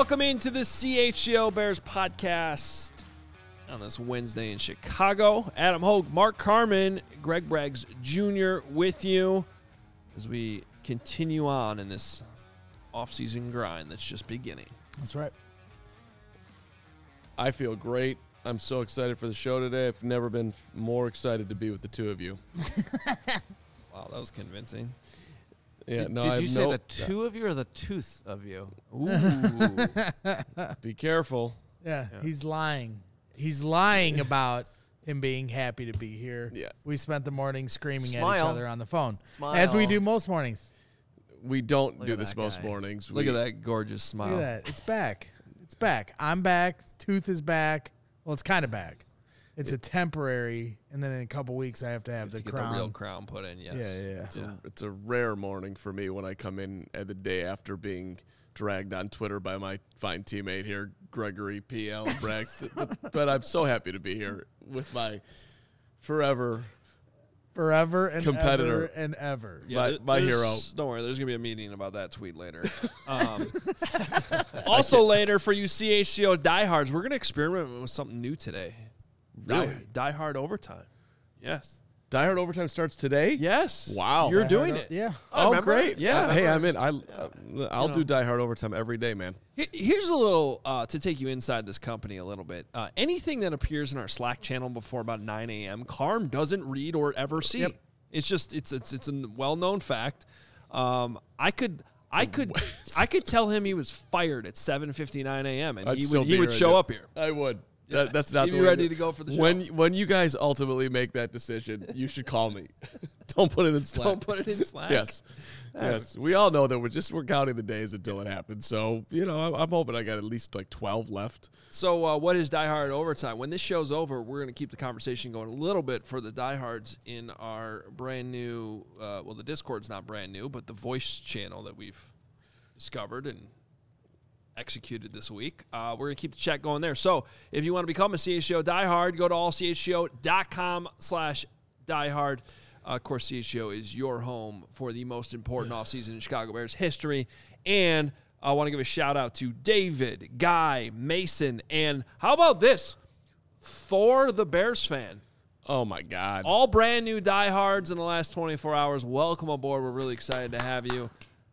Welcome into the CHGO Bears podcast on this Wednesday in Chicago. Adam Hogue, Mark Carman, Greg Braggs Jr. with you as we continue on in this offseason grind that's just beginning. That's right. I feel great. I'm so excited for the show today. I've never been more excited to be with the two of you. Wow, that was convincing. Yeah, Did you say the two of you or the tooth of you? Ooh. Be careful. Yeah, he's lying. He's lying about him being happy to be here. Yeah. We spent the morning screaming at Smile. each other on the phone, Smile. as we do most mornings. We don't Look do at this that most guy. mornings. Look at that gorgeous smile. Look at that. It's back. It's back. I'm back. Tooth is back. Well, it's kind of back. It's a temporary, and then in a couple weeks I have to have To the get crown. the real crown put in, yes. Yeah. It's a rare morning for me when I come in at the day after being dragged on Twitter by my fine teammate here, Gregory P.L. Braggs. but I'm so happy to be here with my forever Forever and Competitor. ever and ever. My hero. Don't worry, there's going to be a meeting about that tweet later. Also later for you CHGO diehards, we're going to experiment with something new today. Really? Die Hard Overtime. Yes. Die Hard Overtime starts today? Yes. Wow. You're Die doing Hard- it. Yeah. Oh, remember? great. Yeah. Hey, I'm in. I'll You know. do Die Hard Overtime every day, man. Here's a little, to take you inside this company a little bit. Anything that appears in our Slack channel before about 9 a.m., Carm doesn't read or ever see. Yep. It's just, it's a well-known fact. I could tell him he was fired at 7:59 a.m. and I'd he still would be here. show up here. I would. That's not He'd the be way ready to go for the show. When you guys ultimately make that decision, you should call me. Don't put it in Slack. Don't put it in Slack. Yes. Yes. We all know that we're counting the days until it happens. So, I'm hoping I got at least like 12 left. So what is Die Hard Overtime? When this show's over, we're going to keep the conversation going a little bit for the diehards in our brand new, the Discord's not brand new, but the voice channel that we've discovered and executed this week. We're going to keep the chat going there. So if you want to become a CHGO diehard, go to allchgo.com/diehard. Of course, CHGO is your home for the most important offseason in Chicago Bears history. And I want to give a shout out to David, Guy, Mason, and how about this? Thor the Bears fan. Oh, my God. All brand new diehards in the last 24 hours. Welcome aboard. We're really excited to have you.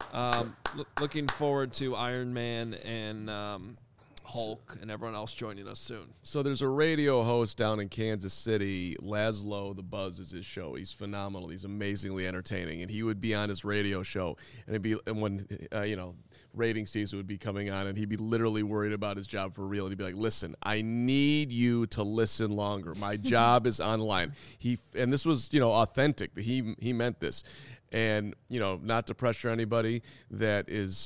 Looking forward to Iron Man and Hulk and everyone else joining us soon. So there's a radio host down in Kansas City, Laszlo the Buzz is his show. He's phenomenal. He's amazingly entertaining, and he would be on his radio show, and when rating season would be coming on, and he'd be literally worried about his job for real. And he'd be like, "Listen, I need you to listen longer. My job is on the line." And this was authentic. He meant this, and not to pressure anybody that is.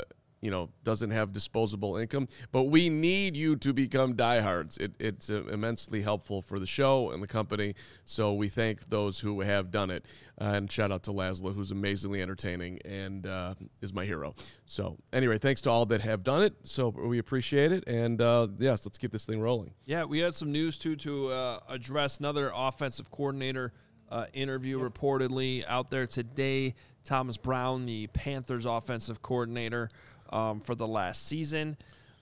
Doesn't have disposable income, but we need you to become diehards. It's immensely helpful for the show and the company, so we thank those who have done it. And shout out to Laszlo, who's amazingly entertaining and is my hero. So anyway, thanks to all that have done it. So we appreciate it, and yes, let's keep this thing rolling. Yeah, we had some news, too, to address another offensive coordinator interview reportedly out there today. Thomas Brown, the Panthers offensive coordinator, for the last season.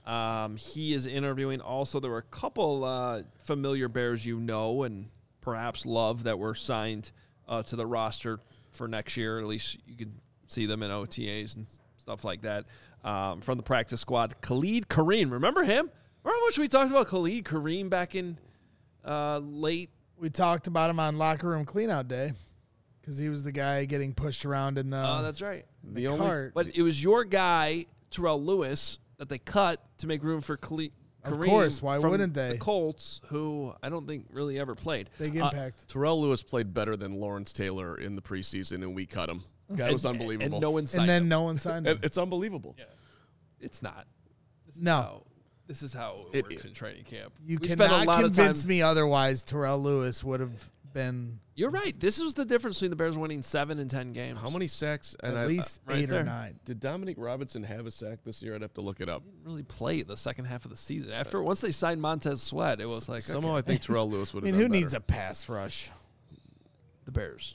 He is interviewing. Also, there were a couple familiar Bears and perhaps love that were signed to the roster for next year. At least you could see them in OTAs and stuff like that. From the practice squad, Khalid Kareem. Remember him? Remember how much we talked about Khalid Kareem back in late? We talked about him on Locker Room Cleanout Day because he was the guy getting pushed around in the Oh, that's right. The only cart. But it was your guy, Terrell Lewis, that they cut to make room for Kareem. Of course, why from wouldn't they? The Colts, who I don't think really ever played. Big impact. Terrell Lewis played better than Lawrence Taylor in the preseason, and we cut him. Guy was unbelievable. And no one signed And then him. no one signed him. It's unbelievable. It's not. This is how it works in training camp. You We spent a cannot lot of convince time- me otherwise. Terrell Lewis would have been You're right. This is the difference between the Bears winning 7 and 10 games. How many sacks? at And least right 8 there. or 9. did Dominic Robinson have a sack this year? I'd have to look it up. Didn't really play the second half of the season. Once they signed Montez Sweat, it was like Somehow okay, I think Terrell Lewis would I have mean, done who needs better. a pass rush? the Bears.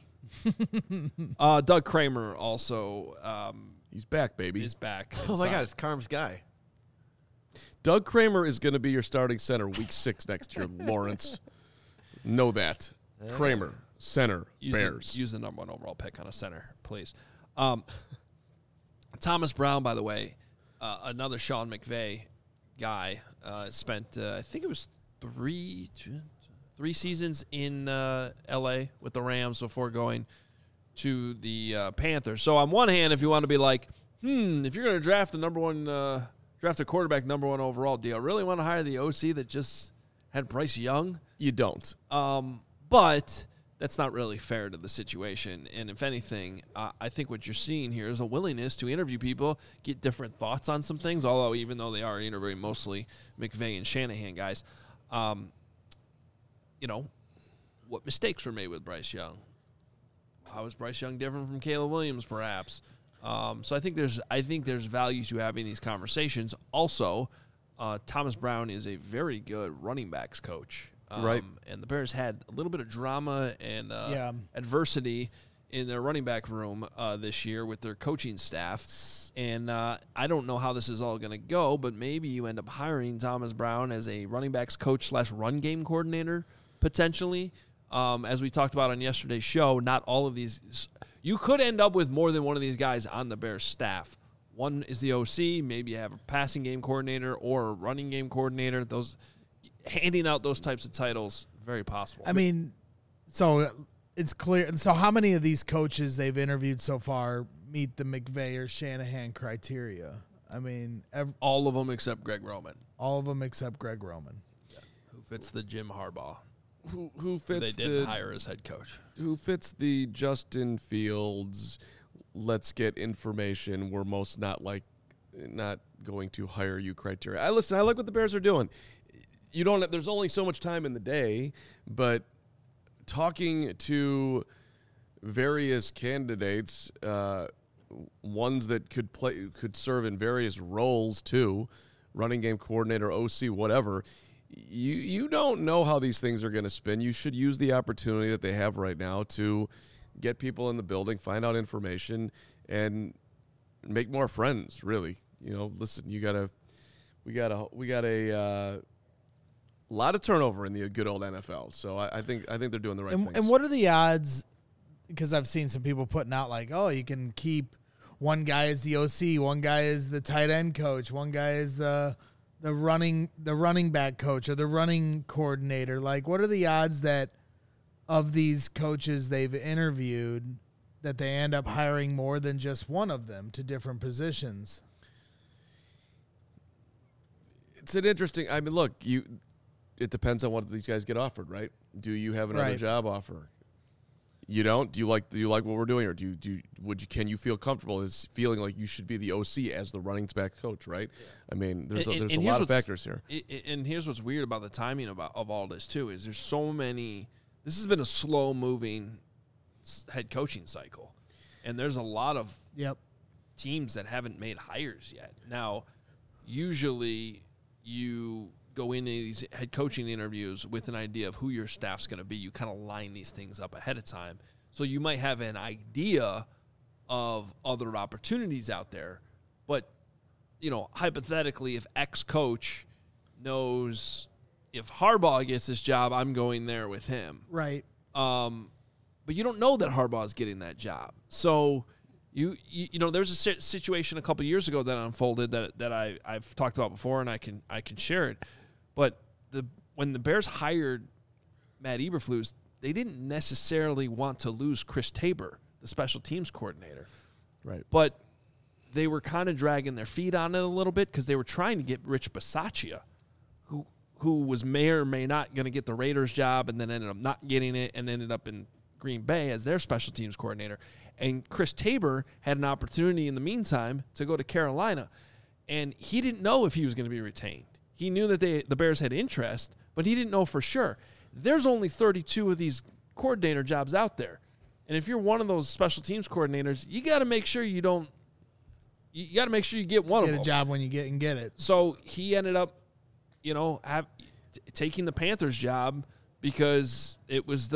Doug Kramer also He's back, baby. is back. Oh, my God, it's Carm's guy. Doug Kramer is going to be your starting center week 6 next year, Lawrence. Know that. Kramer, center, Bears. Use the number 1 overall pick on a center, please. Thomas Brown, by the way, another Sean McVay guy, spent, I think it was three seasons in L.A. with the Rams before going to the Panthers. So on one hand, if you want to be like, if you're going to draft the draft a quarterback number 1 overall, do you really want to hire the OC that just had Bryce Young? You don't. But that's not really fair to the situation. And if anything, I think what you're seeing here is a willingness to interview people, get different thoughts on some things, although even though they are interviewing mostly McVay and Shanahan guys, what mistakes were made with Bryce Young? How is Bryce Young different from Caleb Williams, perhaps? So I think there's value to having these conversations. Also, Thomas Brown is a very good running backs coach. Right. And the Bears had a little bit of drama and adversity in their running back room this year with their coaching staff. And I don't know how this is all going to go, but maybe you end up hiring Thomas Brown as a running backs coach / run game coordinator potentially. As we talked about on yesterday's show, not all of these – you could end up with more than one of these guys on the Bears staff. One is the OC. Maybe you have a passing game coordinator or a running game coordinator. Handing out those types of titles, very possible. I mean, so it's clear. And so how many of these coaches they've interviewed so far meet the McVay or Shanahan criteria? I mean, all of them except Greg Roman. All of them except Greg Roman. Yeah. Who fits the Jim Harbaugh? Who fits they didn't hire as head coach. Who fits the Justin Fields, let's get information, we're most not going to hire you criteria. I like what the Bears are doing. There's only so much time in the day, but talking to various candidates, ones that could serve in various roles too, running game coordinator, OC, whatever, you don't know how these things are going to spin. You should use the opportunity that they have right now to get people in the building, find out information, and make more friends, really. Listen, we got a lot of turnover in the good old NFL, so I think they're doing the right things. And what are the odds? Because I've seen some people putting out like, oh, you can keep one guy as the OC, one guy is the tight end coach, one guy is the running back coach or the running coordinator. Like, what are the odds that of these coaches they've interviewed that they end up hiring more than just one of them to different positions? It's an interesting. I mean, look, it depends on what these guys get offered, right? Do you have another job offer? You don't? Do you like what we're doing, or can you feel comfortable as feeling like you should be the OC as the running back coach, right? Yeah. I mean, there's a lot of factors here. And here's what's weird about the timing of all this too is there's so many. This has been a slow moving head coaching cycle, and there's a lot of teams that haven't made hires yet. Now, usually you go into these head coaching interviews with an idea of who your staff's going to be. You kind of line these things up ahead of time. So you might have an idea of other opportunities out there. But, hypothetically, if X coach knows if Harbaugh gets this job, I'm going there with him. Right. But you don't know that Harbaugh is getting that job. So you there's a situation a couple years ago that unfolded that I've talked about before, and I can share it. But when the Bears hired Matt Eberflus, they didn't necessarily want to lose Chris Tabor, the special teams coordinator. Right. But they were kind of dragging their feet on it a little bit because they were trying to get Rich Bisaccia, who was may or may not going to get the Raiders job and then ended up not getting it and ended up in Green Bay as their special teams coordinator. And Chris Tabor had an opportunity in the meantime to go to Carolina, and he didn't know if he was going to be retained. He knew that the Bears had interest, but he didn't know for sure. There's only 32 of these coordinator jobs out there. And if you're one of those special teams coordinators, you got to make sure you don't – you got to make sure you get one of them. Get a job when you get it. So he ended up, taking the Panthers job because it was the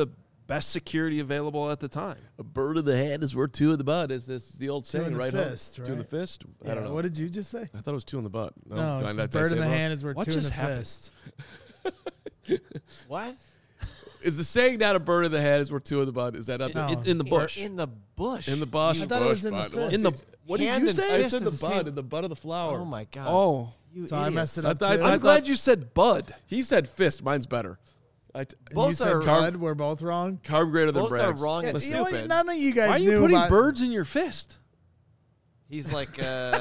best security available at the time. A bird in the hand is worth two in the butt. Is this the old saying, right? Fist, right? Two in the fist? Yeah, I don't know. What did you just say? I thought it was two in the butt. No, did I bird say in the it wrong? hand is worth What two in just the happened? fist. What? Is the saying not a bird in the hand is worth two in the butt? Is that up No. In the bush. In the bush. in the bush? I thought it was in the bud. fist. In the what did Hand you and say? I fist said is the the bud, same- in the butt of the flower. Oh my God. Oh, You So I idiots. messed it I up thought- too. I I'm glad you said bud. He said fist. Mine's better. And both you said are- bud. We're both wrong. Carb greater than Both are Bragg's. wrong and You know what? stupid. None of you guys Why are you knew putting about birds in your fist? He's like,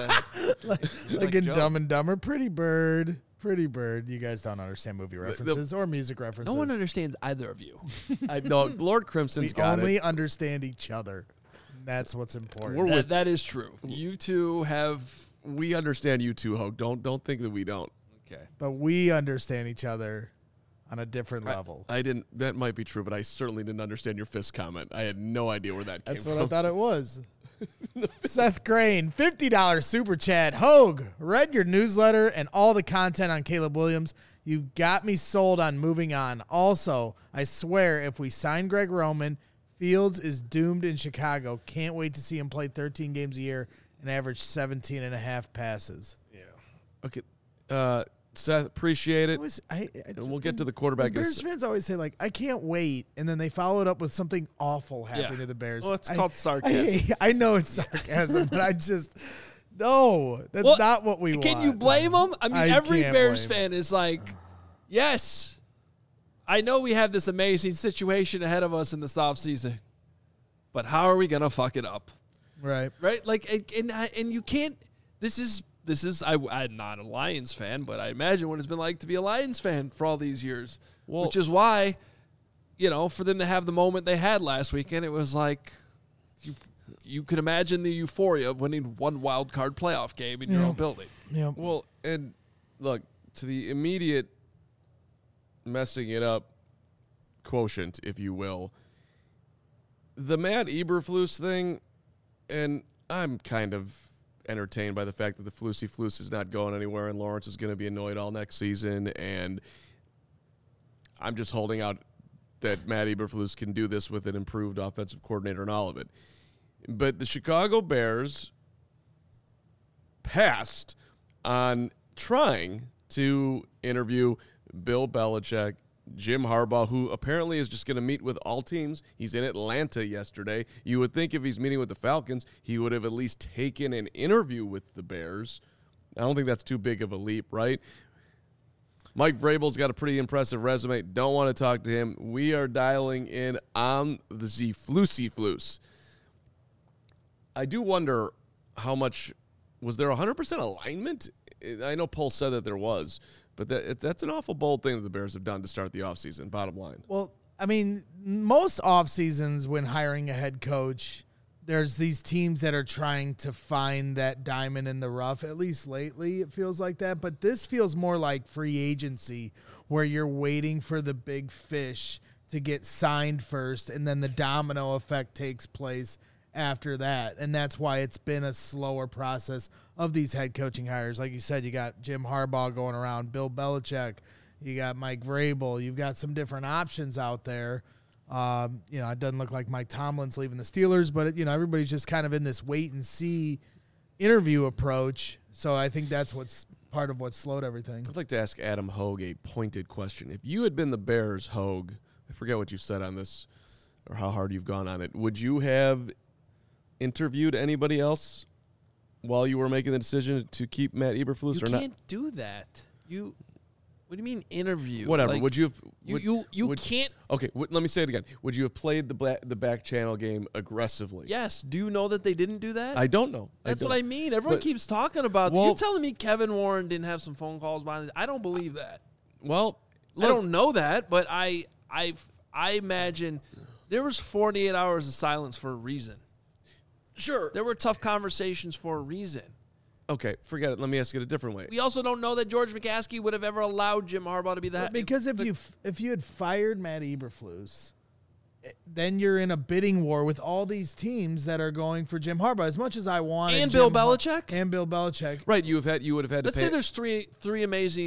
like in Joe. Dumb and Dumber. Pretty bird. Pretty bird. You guys don't understand movie references or music references. No one understands either of you. I know Lord we Crimson's got only it. understand each other. That's what's important. That is true. You two have. We understand you too, Hogue. Don't think that we don't. Okay. But we understand each other on a different level. I didn't. That might be true, but I certainly didn't understand your fist comment. I had no idea where that came That's from. what I thought it was. Seth Crane, $50 super chat. Hogue, read your newsletter and all the content on Caleb Williams. You got me sold on moving on. Also, I swear if we sign Greg Roman, Fields is doomed in Chicago. Can't wait to see him play 13 games a year and average 17 and a half passes. Okay, Seth, appreciate it. And we'll get to the quarterback. Bears fans always say, like, I can't wait, and then they follow it up with something awful happening to the Bears. Well, it's called sarcasm. I know it's sarcasm, but I just no, that's Well, not what we want. Can you blame them? I mean, every can't Bears blame fan is like, yes, I know we have this amazing situation ahead of us in this offseason, but how are we going to fuck it up? right. Right? Like, and you can't, this is, I'm not a Lions fan, but I imagine what it's been like to be a Lions fan for all these years, which is why, for them to have the moment they had last weekend, it was like, you could imagine the euphoria of winning one wild card playoff game in your own building. Yeah. Well, and look, to the immediate messing it up quotient, if you will, the Matt Eberflus thing, and I'm kind of entertained by the fact that the Flusy Flus is not going anywhere and Lawrence is going to be annoyed all next season, and I'm just holding out that Matt Eberflus can do this with an improved offensive coordinator and all of it. But the Chicago Bears passed on trying to interview Bill Belichick, Jim Harbaugh, who apparently is just going to meet with all teams. He's in Atlanta yesterday. You would think if he's meeting with the Falcons, he would have at least taken an interview with the Bears. I don't think that's too big of a leap, right? Mike Vrabel's got a pretty impressive resume. Don't want to talk to him. We are dialing in on the Flusy Flus. I do wonder how much – was there 100% alignment? I know Pohl said that there was, but that's an awful bold thing that the Bears have done to start the offseason, bottom line. Well, I mean, most off seasons when hiring a head coach, there's these teams that are trying to find that diamond in the rough. At least lately, it feels like that. But this feels more like free agency, where you're waiting for the big fish to get signed first, and then the domino effect takes place after that. And that's why it's been a slower process of these head coaching hires. Like you said, you got Jim Harbaugh going around, Bill Belichick, you got Mike Vrabel, you've got some different options out there. It doesn't look like Mike Tomlin's leaving the Steelers, but everybody's just kind of in this wait and see interview approach. So I think that's what's part of what slowed everything. I'd like to ask Adam Hogue a pointed question. If you had been the Bears, Hogue, I forget what you said on this or how hard you've gone on it, would you have interviewed anybody else while you were making the decision to keep Matt Eberflus or not? You can't do that. What do you mean interview? Whatever. Like, would you have? You can't. Okay. Let me say it again. Would you have played the back channel game aggressively? Yes. Do you know that they didn't do that? I don't know. That's what I mean. Everyone keeps talking about. Well, You're telling me Kevin Warren didn't have some phone calls behind it? I don't believe that. Well, I don't know that, but I imagine there was 48 hours of silence for a reason. Sure. There were tough conversations for a reason. Okay, forget it. Let me ask it a different way. We also don't know that George McCaskey would have ever allowed Jim Harbaugh to be the head. Because if you had fired Matt Eberflus, then you're in a bidding war with all these teams that are going for Jim Harbaugh. As much as I want And Bill Belichick? and Bill Belichick, Right, you would have had to Let's pay. say there's three amazing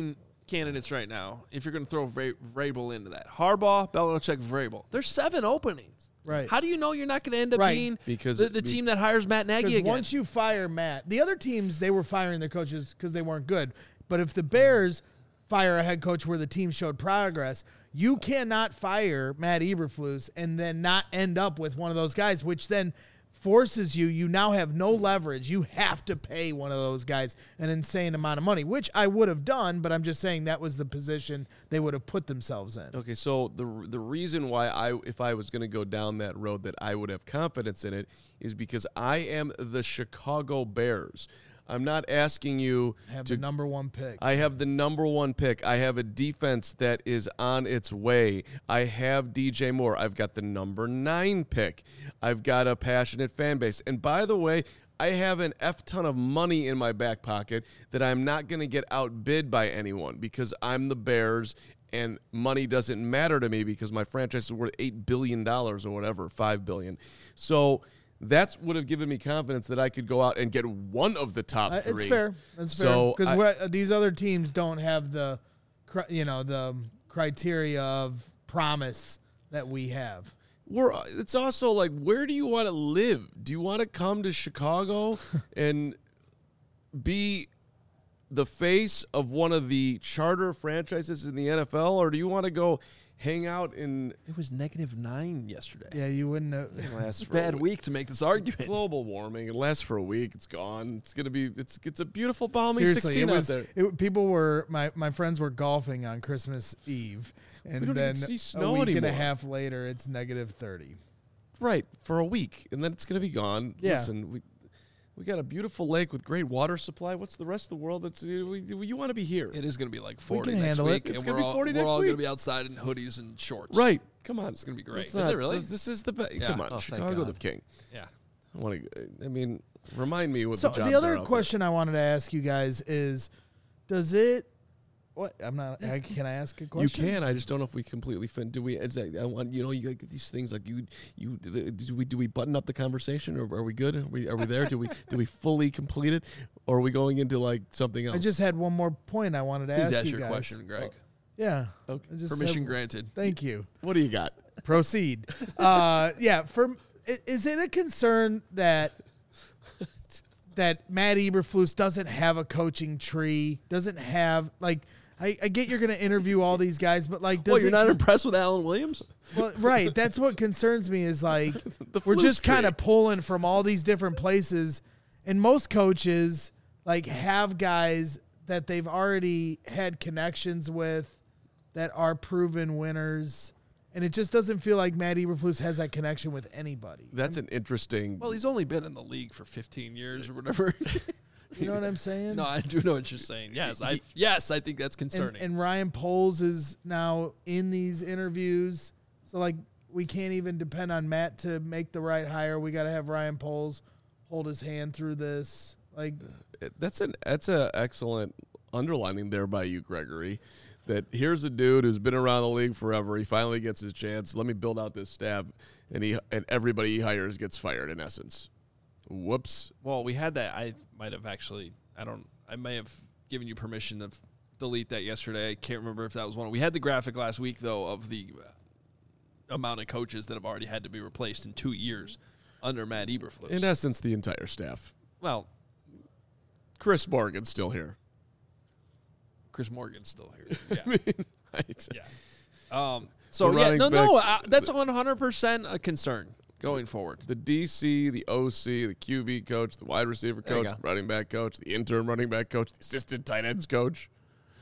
candidates right now. If you're going to throw Vrabel into that, Harbaugh, Belichick, Vrabel. There's 7 openings. Right. How do you know you're not going to end up being the team that hires Matt Nagy again? Once you fire Matt, the other teams, they were firing their coaches because they weren't good. But if the Bears fire a head coach where the team showed progress, you cannot fire Matt Eberflus and then not end up with one of those guys, which then forces you now have no leverage. You have to pay one of those guys an insane amount of money, which I would have done, but I'm just saying that was the position they would have put themselves in. Okay, so the reason why if I was going to go down that road that I would have confidence in it is because I am the Chicago Bears. I'm not asking you Have to the number 1 pick. I have the number 1 pick. I have a defense that is on its way. I have DJ Moore. I've got the number 9 pick. I've got a passionate fan base. And by the way, I have an F ton of money in my back pocket that I'm not going to get outbid by anyone because I'm the Bears and money doesn't matter to me because my franchise is worth $8 billion or whatever, $5 billion. So that would have given me confidence that I could go out and get one of the top 3. It's fair. That's So fair. Because these other teams don't have the criteria of promise that we have. It's also like, where do you want to live? Do you want to come to Chicago and be the face of one of the charter franchises in the NFL, or do you want to go hang out in? It was -9 yesterday. Yeah, you wouldn't know. It lasts for Bad week to make this argument. Global warming. It lasts for a week. It's gone. It's gonna be. It's a beautiful balmy Seriously, 16 out there. People were my friends were golfing on Christmas Eve, and don't then even see snow a week and a anymore. half later, it's -30. Right, for a week, and then it's gonna be gone. Yeah. Listen, we got a beautiful lake with great water supply. What's the rest of the world? That's you want to be here. It is going to be like 40 can next handle it. week, It's and gonna we're be all 40 next going to week. be outside in hoodies and shorts. Right. Come on. It's going to be great. It's Is not- it really? This is the best. Yeah. Come on, Oh, thank Chicago the God. king. Yeah. I mean, remind me what So the jobs the other are out question I wanted to ask you guys is, does it? What I'm not. Can I ask a there. question? You can. I just don't know if we completely do we? Is that, I want you get these things like do we button up the conversation, or are we good? Are we there? Do we fully complete it, or are we going into like something else? I just had one more point I wanted to Please ask ask you your guys. question, Greg. Yeah. Okay. I just Permission said- granted. Thank you. What do you got? Proceed. Yeah. Is it a concern that Matt Eberflus doesn't have a coaching tree? Doesn't have like. I get you're going to interview all these guys, but like, does Well, you're not impressed with Alan Williams? Well, right. That's what concerns me is like The we're Flus just kind tree. of pulling from all these different places, and most coaches like have guys that they've already had connections with that are proven winners, and it just doesn't feel like Matt Eberflus has that connection with anybody. That's an interesting. Well, he's only been in the league for 15 years or whatever. You know what I'm saying? No, I do know what you're saying. Yes, I think that's concerning. And Ryan Poles is now in these interviews, so like we can't even depend on Matt to make the right hire. We got to have Ryan Poles hold his hand through this. Like That's a excellent underlining there by you, Gregory. That here's a dude who's been around the league forever. He finally gets his chance. Let me build out this staff, and everybody he hires gets fired. In essence, whoops. Well, we had that. I might have actually. I may have given you permission to delete that yesterday. I can't remember if that was one. We had the graphic last week though of the amount of coaches that have already had to be replaced in 2 years under Matt Eberflus. In essence, the entire staff. Well, Chris Morgan's still here. Chris Morgan's still here. Yeah. I mean, right. Yeah. So The yeah, running no, backs- that's 100% a concern going forward. The DC, the OC, the QB coach, the wide receiver There you coach, go. the running back coach, the interim running back coach, the assistant tight ends coach.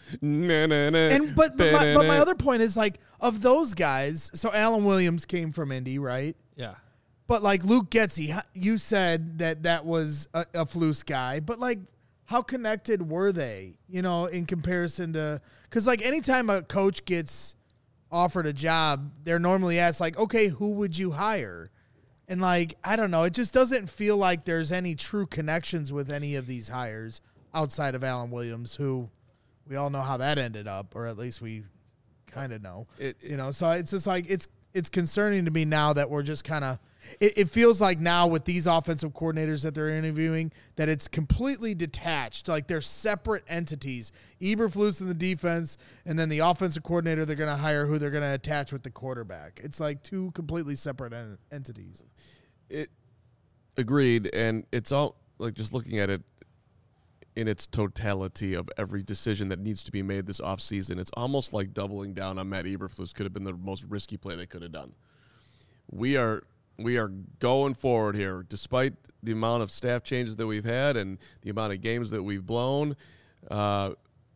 And but my other point is like of those guys. So Alan Williams came from Indy, right? Yeah. But like Luke Getsy, you said that was a Flus guy, but like how connected were they? You know, in comparison to because like anytime a coach gets offered a job, they're normally asked like, okay, who would you hire? And like I don't know, it just doesn't feel like there's any true connections with any of these hires outside of Alan Williams, who we all know how that ended up, or at least we kind of know. You know, so it's just like it's concerning to me now that we're just kind of It feels like now with these offensive coordinators that they're interviewing that it's completely detached. Like they're separate entities. Eberflus in the defense, and then the offensive coordinator they're going to hire who they're going to attach with the quarterback. It's like two completely separate entities. Agreed, and it's all like just looking at it in its totality of every decision that needs to be made this offseason, it's almost like doubling down on Matt Eberflus could have been the most risky play they could have done. We are going forward here, despite the amount of staff changes that we've had and the amount of games that we've blown, and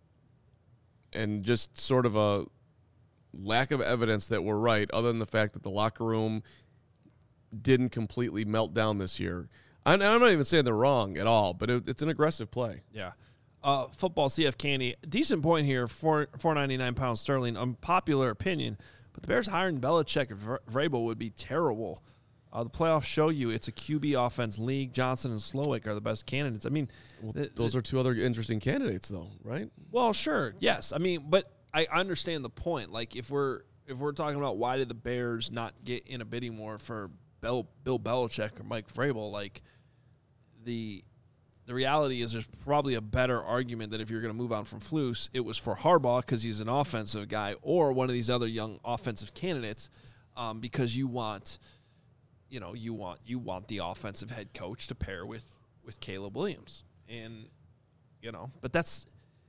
just sort of a lack of evidence that we're right, other than the fact that the locker room didn't completely melt down this year. I'm not even saying they're wrong at all, but it's an aggressive play. Yeah. Football CF Candy, decent point here, £4.99 sterling. Unpopular opinion, but the Bears hiring Belichick and Vrabel would be terrible. The playoffs show you it's a QB offense league. Johnson and Slowick are the best candidates. I mean, those are two other interesting candidates, though, right? Well, sure, yes. I mean, but I understand the point. Like, if we're talking about why did the Bears not get in a bidding war for Bill Belichick or Mike Vrabel, like the reality is there's probably a better argument that if you're going to move on from Flus, it was for Harbaugh because he's an offensive guy, or one of these other young offensive candidates, because you want the offensive head coach to pair with Caleb Williams, and but that's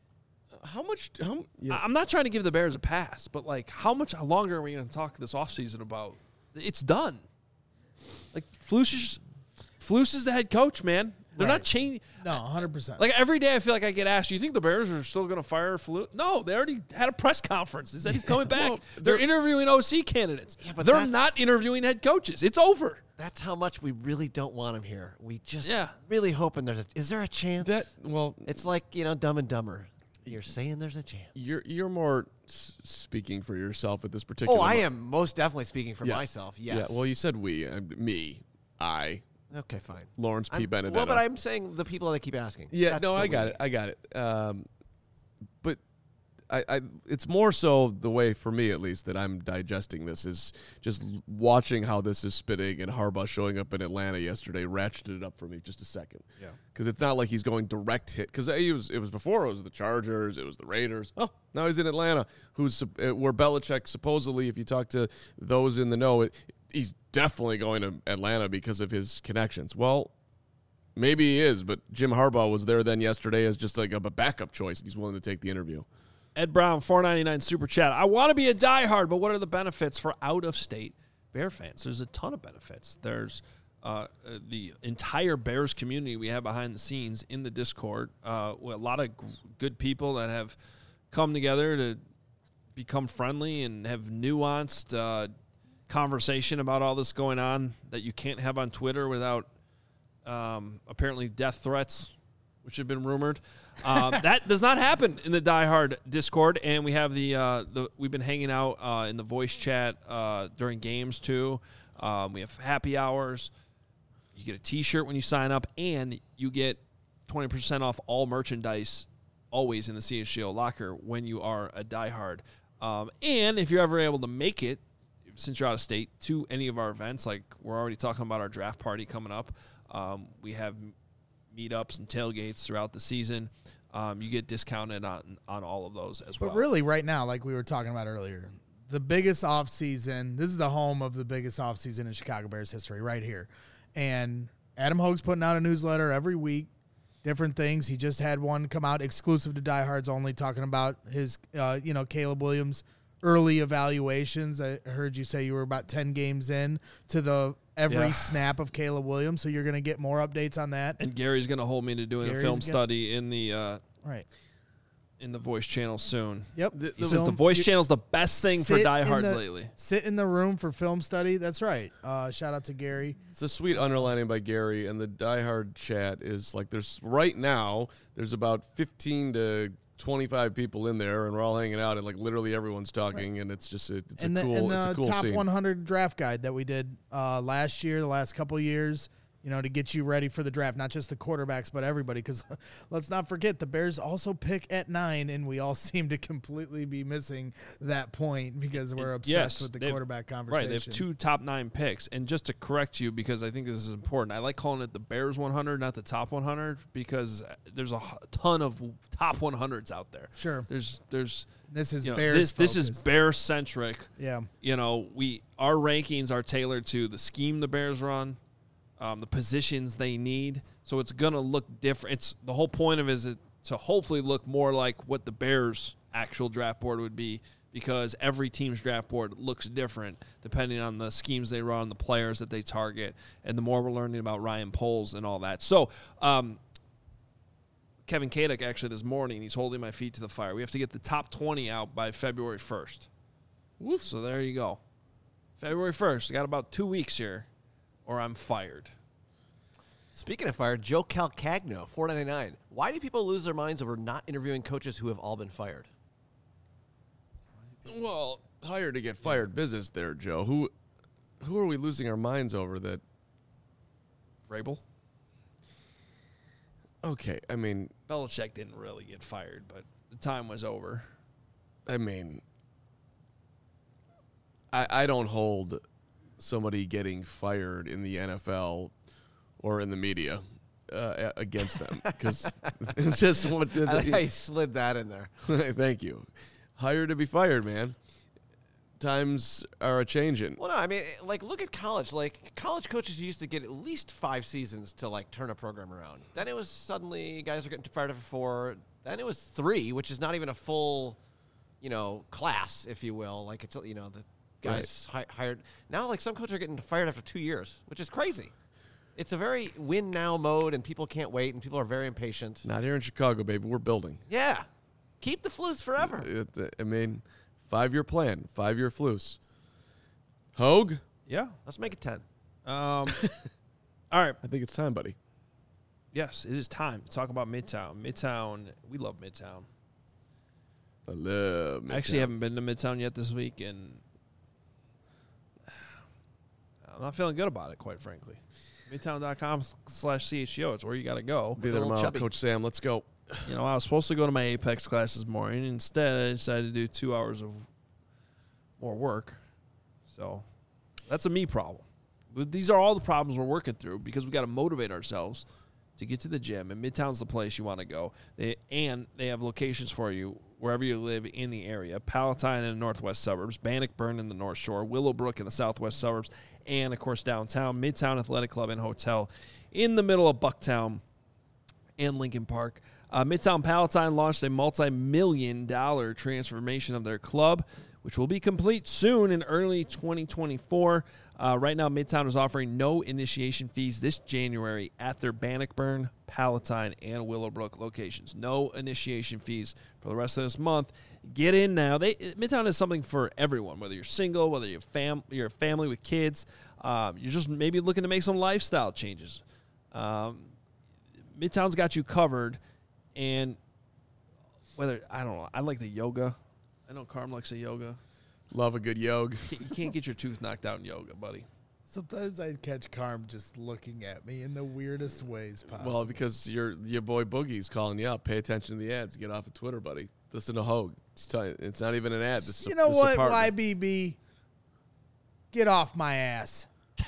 I'm not trying to give the Bears a pass, but like how much longer are we going to talk this offseason about? It's done. Like Flus is the head coach, man. They're not changing. No, 100%. Like every day I feel like I get asked, do you think the Bears are still going to fire Flus? No, they already had a press conference. They said he's coming back. Well, they're interviewing OC candidates. Yeah, but they're not interviewing head coaches. It's over. That's how much we really don't want him here. We just really hoping is there a chance? It's like, Dumb and Dumber. You're saying there's a chance. You're more speaking for yourself at this particular I am most definitely speaking for myself, yes. Yeah, well, you said we. I. Okay, fine. Lawrence P. Benedetto. Well, but I'm saying the people that keep asking. Yeah, no, I got it. But it's more so the way, for me at least, that I'm digesting this is just watching how this is spinning, and Harbaugh showing up in Atlanta yesterday ratcheted it up for me just a second. Yeah. Because it's not like he's going direct hit. Because it was before, it was the Chargers, it was the Raiders. Oh, now he's in Atlanta, where Belichick supposedly, if you talk to those in the know, he's definitely going to Atlanta because of his connections. Well, maybe he is, but Jim Harbaugh was there then yesterday as just like a backup choice. He's willing to take the interview. Ed Brown, $4.99 super chat. I want to be a diehard, but what are the benefits for out-of-state Bear fans? There's a ton of benefits. There's the entire Bears community we have behind the scenes in the Discord. A lot of good people that have come together to become friendly and have nuanced conversation about all this going on that you can't have on Twitter without apparently death threats, which have been rumored. That does not happen in the Die Hard Discord, and we have we've been hanging out in the voice chat during games too. We have happy hours. You get a T-shirt when you sign up, and you get 20% off all merchandise always in the CSGO locker when you are a Die Hard. And if you're ever able to make it, since you're out of state, to any of our events, like we're already talking about our draft party coming up. We have meetups and tailgates throughout the season. You get discounted on all of those as well. But really right now, like we were talking about earlier, the biggest offseason, this is the home of the biggest offseason in Chicago Bears history right here. And Adam Hogue's putting out a newsletter every week, different things. He just had one come out exclusive to Diehards only, talking about his, Caleb Williams early evaluations. I heard you say you were about 10 games in to every snap of Caleb Williams, so you're going to get more updates on that. And Gary's going to hold me to doing a film study in the in the voice channel soon. Yep. He says the voice channel is the best thing for diehards lately. Sit in the room for film study. That's right. Shout out to Gary. It's a sweet underlining by Gary, and the diehard chat is like there's about 15 to 25 people in there, and we're all hanging out, and like literally everyone's talking, and it's just it's a cool top scene. 100 draft guide that we did last year, the last couple of years. to get you ready for the draft, not just the quarterbacks, but everybody. Because let's not forget, the Bears also pick at 9, and we all seem to completely be missing that point because we're obsessed with the quarterback conversation. Right, they have 2 top 9 picks. And just to correct you, because I think this is important, I like calling it the Bears 100, not the top 100, because there's a ton of top 100s out there. Sure. There's this is Bears. This is Bear centric. Yeah. Our rankings are tailored to the scheme the Bears run. The positions they need, so it's gonna look different. The whole point of it is to hopefully look more like what the Bears' actual draft board would be, because every team's draft board looks different depending on the schemes they run, the players that they target, and the more we're learning about Ryan Poles and all that. So, Kevin Kadek actually this morning, he's holding my feet to the fire. We have to get the top 20 out by February 1st. Woof. So there you go. February 1st. I got about 2 weeks here, or I'm fired. Speaking of fired, Joe Calcagno, $4.99. Why do people lose their minds over not interviewing coaches who have all been fired? Well, hired to get fired business there, Joe. Who are we losing our minds over that? Vrabel? Okay, I mean, Belichick didn't really get fired, but the time was over. I mean, I don't hold somebody getting fired in the NFL or in the media against them, because it's just what I slid that in there. Thank you. Hired to be fired, man. Times are a changing. Well, no, I mean, look at college. College coaches used to get at least 5 seasons to turn a program around. Then it was suddenly guys are getting fired after 4. Then it was 3, which is not even a full, class, if you will. It's the guys hired. Now, some coaches are getting fired after 2 years, which is crazy. It's a very win now mode, and people can't wait, and people are very impatient. Not here in Chicago, baby. We're building. Yeah. Keep the Flus forever. I mean, 5-year plan, 5-year Flus. Hogue? Yeah. Let's make it 10. All right. I think it's time, buddy. Yes, it is time to talk about Midtown. Midtown, we love Midtown. I love Midtown. I actually haven't been to Midtown yet this week, and I'm not feeling good about it, quite frankly. Midtown.com/CHGO. It's where you got to go. Be there tomorrow, Coach Sam. Let's go. I was supposed to go to my Apex class this morning. Instead, I decided to do 2 hours of more work. So that's a me problem. But these are all the problems we're working through, because we got to motivate ourselves to get to the gym. And Midtown's the place you want to go. They have locations for you wherever you live in the area. Palatine in the northwest suburbs, Bannockburn in the north shore, Willowbrook in the southwest suburbs, and, of course, downtown, Midtown Athletic Club and Hotel in the middle of Bucktown and Lincoln Park. Midtown Palatine launched a multi-million-dollar transformation of their club, which will be complete soon in early 2024. Right now, Midtown is offering no initiation fees this January at their Bannockburn, Palatine, and Willowbrook locations. No initiation fees for the rest of this month. Get in now. Midtown is something for everyone, whether you're single, whether you're a family with kids, you're just maybe looking to make some lifestyle changes. Midtown's got you covered, and I like the yoga. I know Carm likes the yoga. Love a good yoga. You can't get your tooth knocked out in yoga, buddy. Sometimes I catch Carm just looking at me in the weirdest ways possible. Well, because your boy Boogie's calling you out. Pay attention to the ads. Get off of Twitter, buddy. Listen to Hogue. It's not even an ad. This you know what, YBB? Get off my ass.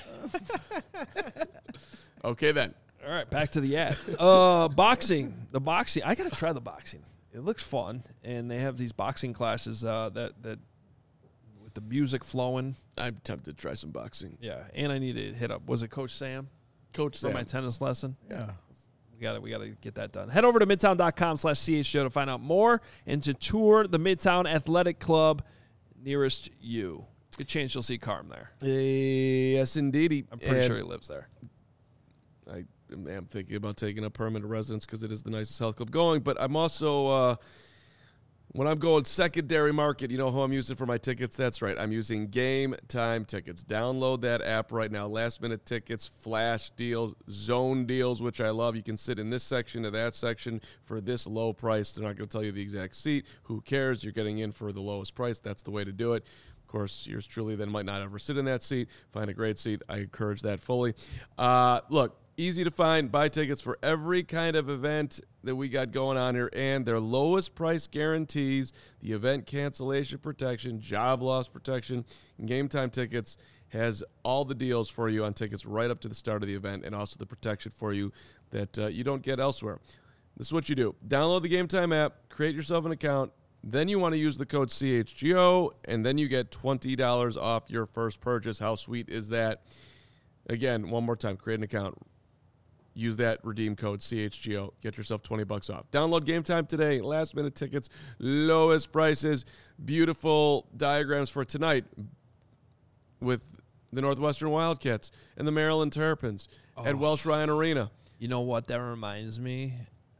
Okay, then. All right, back to the ad. Boxing. The boxing. I got to try the boxing. It looks fun, and they have these boxing classes that with the music flowing. I'm tempted to try some boxing. Yeah, and I need to hit up. Was it Coach Sam? Coach Sam. For my tennis lesson? Yeah. We got to get that done. Head over to midtown.com/CHGO to find out more and to tour the Midtown Athletic Club nearest you. Good chance you'll see Carm there. Yes, indeed. I'm pretty sure he lives there. I am thinking about taking up permanent residence because it is the nicest health club going. But I'm also, when I'm going secondary market, you know who I'm using for my tickets? That's right. I'm using Game Time Tickets. Download that app right now. Last-minute tickets, flash deals, zone deals, which I love. You can sit in this section or that section for this low price. They're not going to tell you the exact seat. Who cares? You're getting in for the lowest price. That's the way to do it. Of course, yours truly then might not ever sit in that seat. Find a great seat. I encourage that fully. Look, Easy to find. Buy tickets for every kind of event that we got going on here, and their lowest price guarantees, the event cancellation protection, job loss protection, and Game Time Tickets has all the deals for you on tickets right up to the start of the event, and also the protection for you that you don't get elsewhere. This is what you do. Download the Game Time app, create yourself an account, then you want to use the code CHGO, and then you get $20 off your first purchase. How sweet is that? Again, one more time, create an account. Use that redeem code CHGO. Get yourself $20 off. Download Game Time today. Last minute tickets, lowest prices, beautiful diagrams for tonight with the Northwestern Wildcats and the Maryland Terrapins at Welsh Ryan Arena. You know what that reminds me?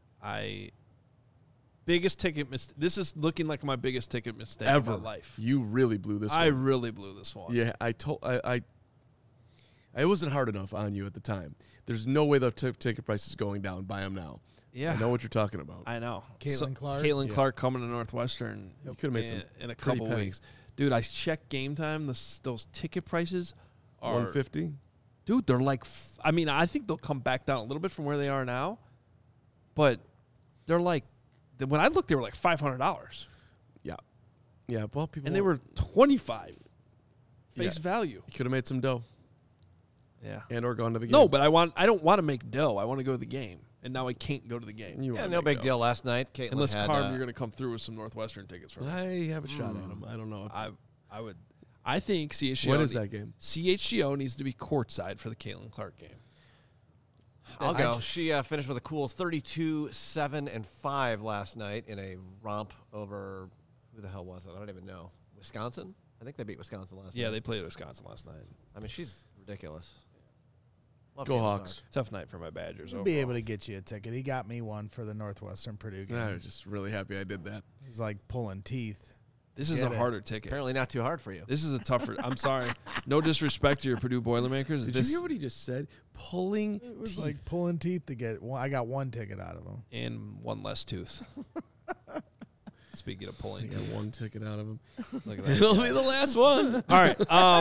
Biggest ticket mistake. This is looking like my biggest ticket mistake Ever. of my life. You really blew this I one. really blew this one. Yeah, I wasn't hard enough on you at the time. There's no way the ticket price is going down. Buy them now. Yeah. I know what you're talking about. I know. Caitlin Clark? Caitlin Yeah. Clark coming to Northwestern You could have made some in a pretty couple pennies. weeks. Dude, I checked Game Time. Those ticket prices are $150. Dude, they're like I think they'll come back down a little bit from where they are now. But they're like when I looked they were like $500. Yeah. Yeah, well, people And they were 25 face Yeah. value. You could have made some dough Yeah. and or gone to the game. No, but I don't want to make dough. I want to go to the game. And now I can't go to the game. You Yeah, wanna no make big dough. deal last night. Caitlin Unless had, Carm, you're going to come through with some Northwestern tickets for me. I have a shot at him. I don't know. I would. I think CHGO. When is that game? CHGO needs to be courtside for the Caitlin Clark game. I'll go. She finished with a cool 32-7-5 last night in a romp over who the hell was it? I don't even know. Wisconsin? I think they beat Wisconsin last night. Yeah, they played Wisconsin last night. I mean, she's ridiculous. Love Go Caitlin Hawks. Tough night for my Badgers. He'll overall. be able to get you a ticket. He got me one for the Northwestern Purdue game. I was just really happy I did that. He's like pulling teeth. This is Get a it. harder ticket. Apparently not too hard for you. This is a tougher. I'm sorry. No disrespect to your Purdue Boilermakers. Did this you hear what he just said? Pulling It was teeth. like pulling teeth to get one. I got one ticket out of him. and one less tooth. Speaking of I pulling got teeth, one ticket out of him. look at that. It'll be the last one. All right.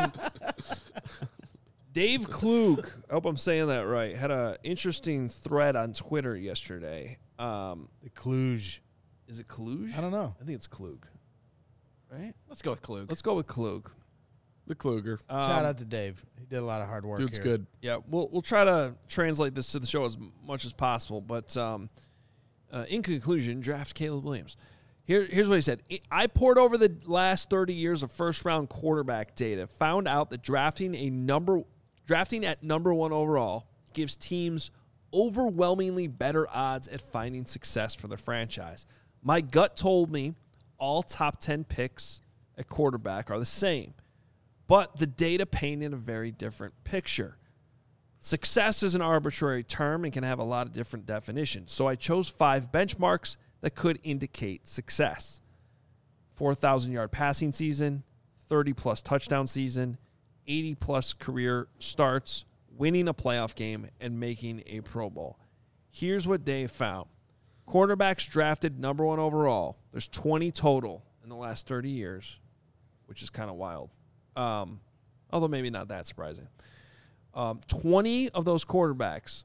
Dave Klug, I hope I'm saying that right, had an interesting thread on Twitter yesterday. The Cluj. Is it Klug? I don't know. I think it's Klug. Right? Let's go with Klug. Let's go with Klug. The Kluger. Shout out to Dave. He did a lot of hard work. Dude's here. good. Yeah, we'll try to translate this to the show as much as possible. But in conclusion, draft Caleb Williams. Here's what he said. I poured over the last 30 years of first-round quarterback data, found out that drafting at number one overall gives teams overwhelmingly better odds at finding success for their franchise. My gut told me all top 10 picks at quarterback are the same, but the data painted a very different picture. Success is an arbitrary term and can have a lot of different definitions, so I chose 5 benchmarks that could indicate success. 4,000-yard passing season, 30-plus touchdown season, 80-plus career starts, winning a playoff game, and making a Pro Bowl. Here's what Dave found. Quarterbacks drafted number one overall. There's 20 total in the last 30 years, which is kind of wild. Although maybe not that surprising. 20 of those quarterbacks,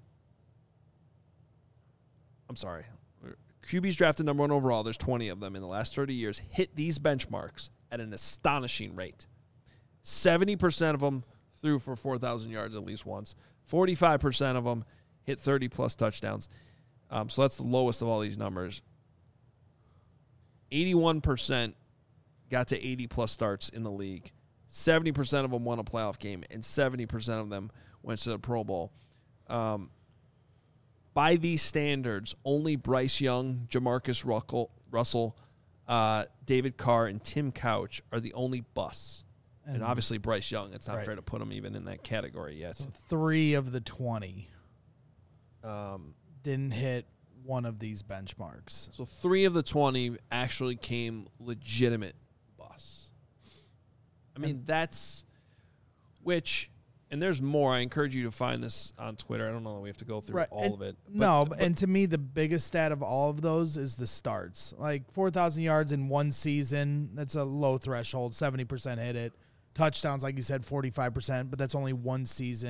I'm sorry, QBs drafted number one overall, there's 20 of them in the last 30 years, hit these benchmarks at an astonishing rate. 70% of them threw for 4,000 yards at least once. 45% of them hit 30-plus touchdowns. So that's the lowest of all these numbers. 81% got to 80-plus starts in the league. 70% of them won a playoff game, and 70% of them went to the Pro Bowl. By these standards, only Bryce Young, Jamarcus Russell, David Carr, and Tim Couch are the only busts. And obviously Bryce Young, it's not Right. fair to put him even in that category yet. So 3 of the 20 didn't hit one of these benchmarks. So 3 of the 20 actually came legitimate busts. I mean, that's which, and there's more. I encourage you to find this on Twitter. I don't know that we have to go through all and of it. And to me, the biggest stat of all of those is the starts. Like 4,000 yards in one season, that's a low threshold. 70% hit it. Touchdowns, like you said, 45%, but that's only one season.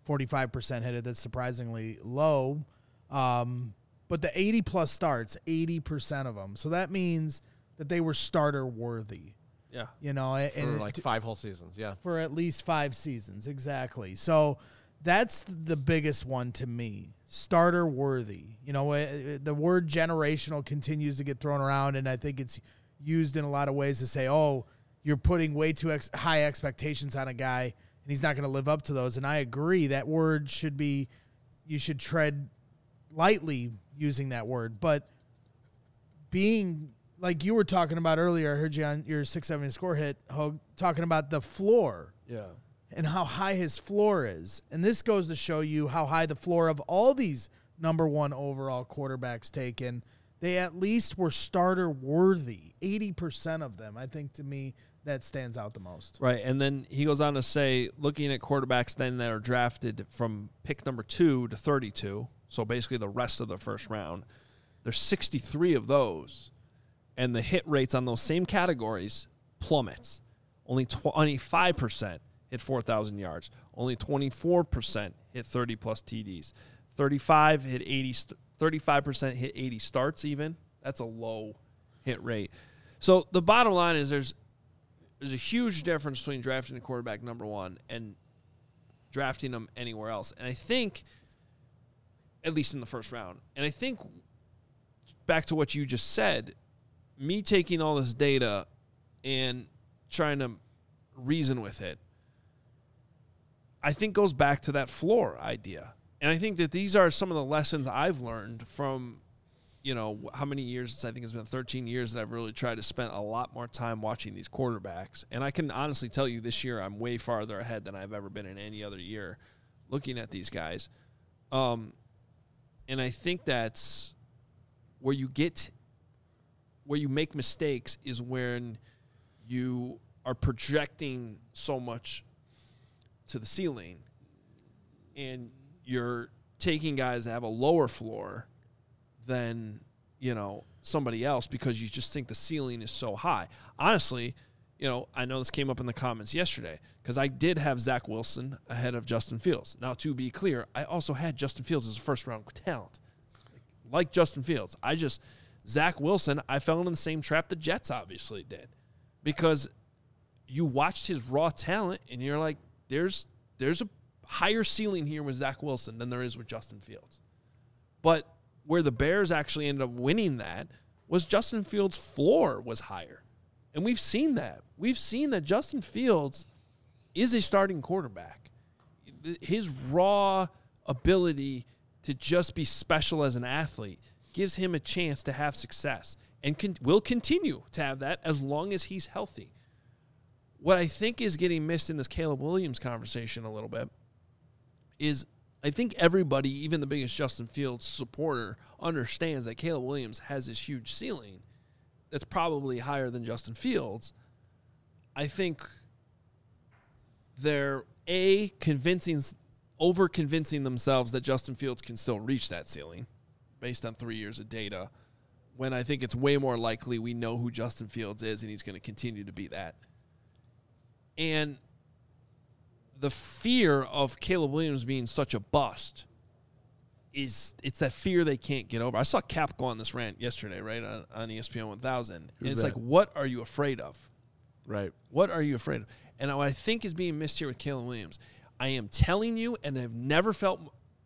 45% hit it. That's surprisingly low. But the 80-plus starts, 80% of them. So that means that they were starter worthy. Yeah. You know, For like 5 whole seasons, yeah. For at least 5 seasons, exactly. So that's the biggest one to me. Starter worthy. You know, the word generational continues to get thrown around, and I think it's used in a lot of ways to say, oh, you're putting way too high expectations on a guy, and he's not going to live up to those. And I agree. That word should be, you should tread lightly using that word. But being, like you were talking about earlier, I heard you on your 670 score hit, Hogue, talking about the floor. Yeah. And how high his floor is. And this goes to show you how high the floor of all these number 1 overall quarterbacks taken. They at least were starter worthy. 80% of them. I think to me that stands out the most. Right. And then he goes on to say, looking at quarterbacks then that are drafted from pick number 2 to 32, so basically the rest of the first round, there's 63 of those. And the hit rates on those same categories plummets. Only 25% hit 4,000 yards. Only 24% hit 30-plus TDs. 35% hit 80 starts even. That's a low hit rate. So the bottom line is there's a huge difference between drafting a quarterback number 1 and drafting them anywhere else. And I think, at least in the first round, and I think back to what you just said, me taking all this data and trying to reason with it, I think goes back to that floor idea. And I think that these are some of the lessons I've learned from, you know, how many years, I think it's been 13 years that I've really tried to spend a lot more time watching these quarterbacks. And I can honestly tell you this year I'm way farther ahead than I've ever been in any other year looking at these guys. And I think that's where you make mistakes is when you are projecting so much to the ceiling and you're taking guys that have a lower floor than, you know, somebody else because you just think the ceiling is so high. Honestly, you know, I know this came up in the comments yesterday because I did have Zach Wilson ahead of Justin Fields. Now, to be clear, I also had Justin Fields as a first-round talent. Like Justin Fields. Zach Wilson, I fell into the same trap the Jets obviously did because you watched his raw talent and you're like, there's a higher ceiling here with Zach Wilson than there is with Justin Fields. But where the Bears actually ended up winning that was Justin Fields' floor was higher. And we've seen that. We've seen that Justin Fields is a starting quarterback. His raw ability to just be special as an athlete gives him a chance to have success and will continue to have that as long as he's healthy. What I think is getting missed in this Caleb Williams conversation a little bit is I think everybody, even the biggest Justin Fields supporter, understands that Caleb Williams has this huge ceiling that's probably higher than Justin Fields. I think they're, over-convincing themselves that Justin Fields can still reach that ceiling based on 3 years of data, when I think it's way more likely we know who Justin Fields is and he's going to continue to be that. And the fear of Caleb Williams being such a bust it's that fear they can't get over. I saw Cap go on this rant yesterday, right, on ESPN 1000. And it's like, what are you afraid of? Right. What are you afraid of? And what I think is being missed here with Caleb Williams, I am telling you, and I've never felt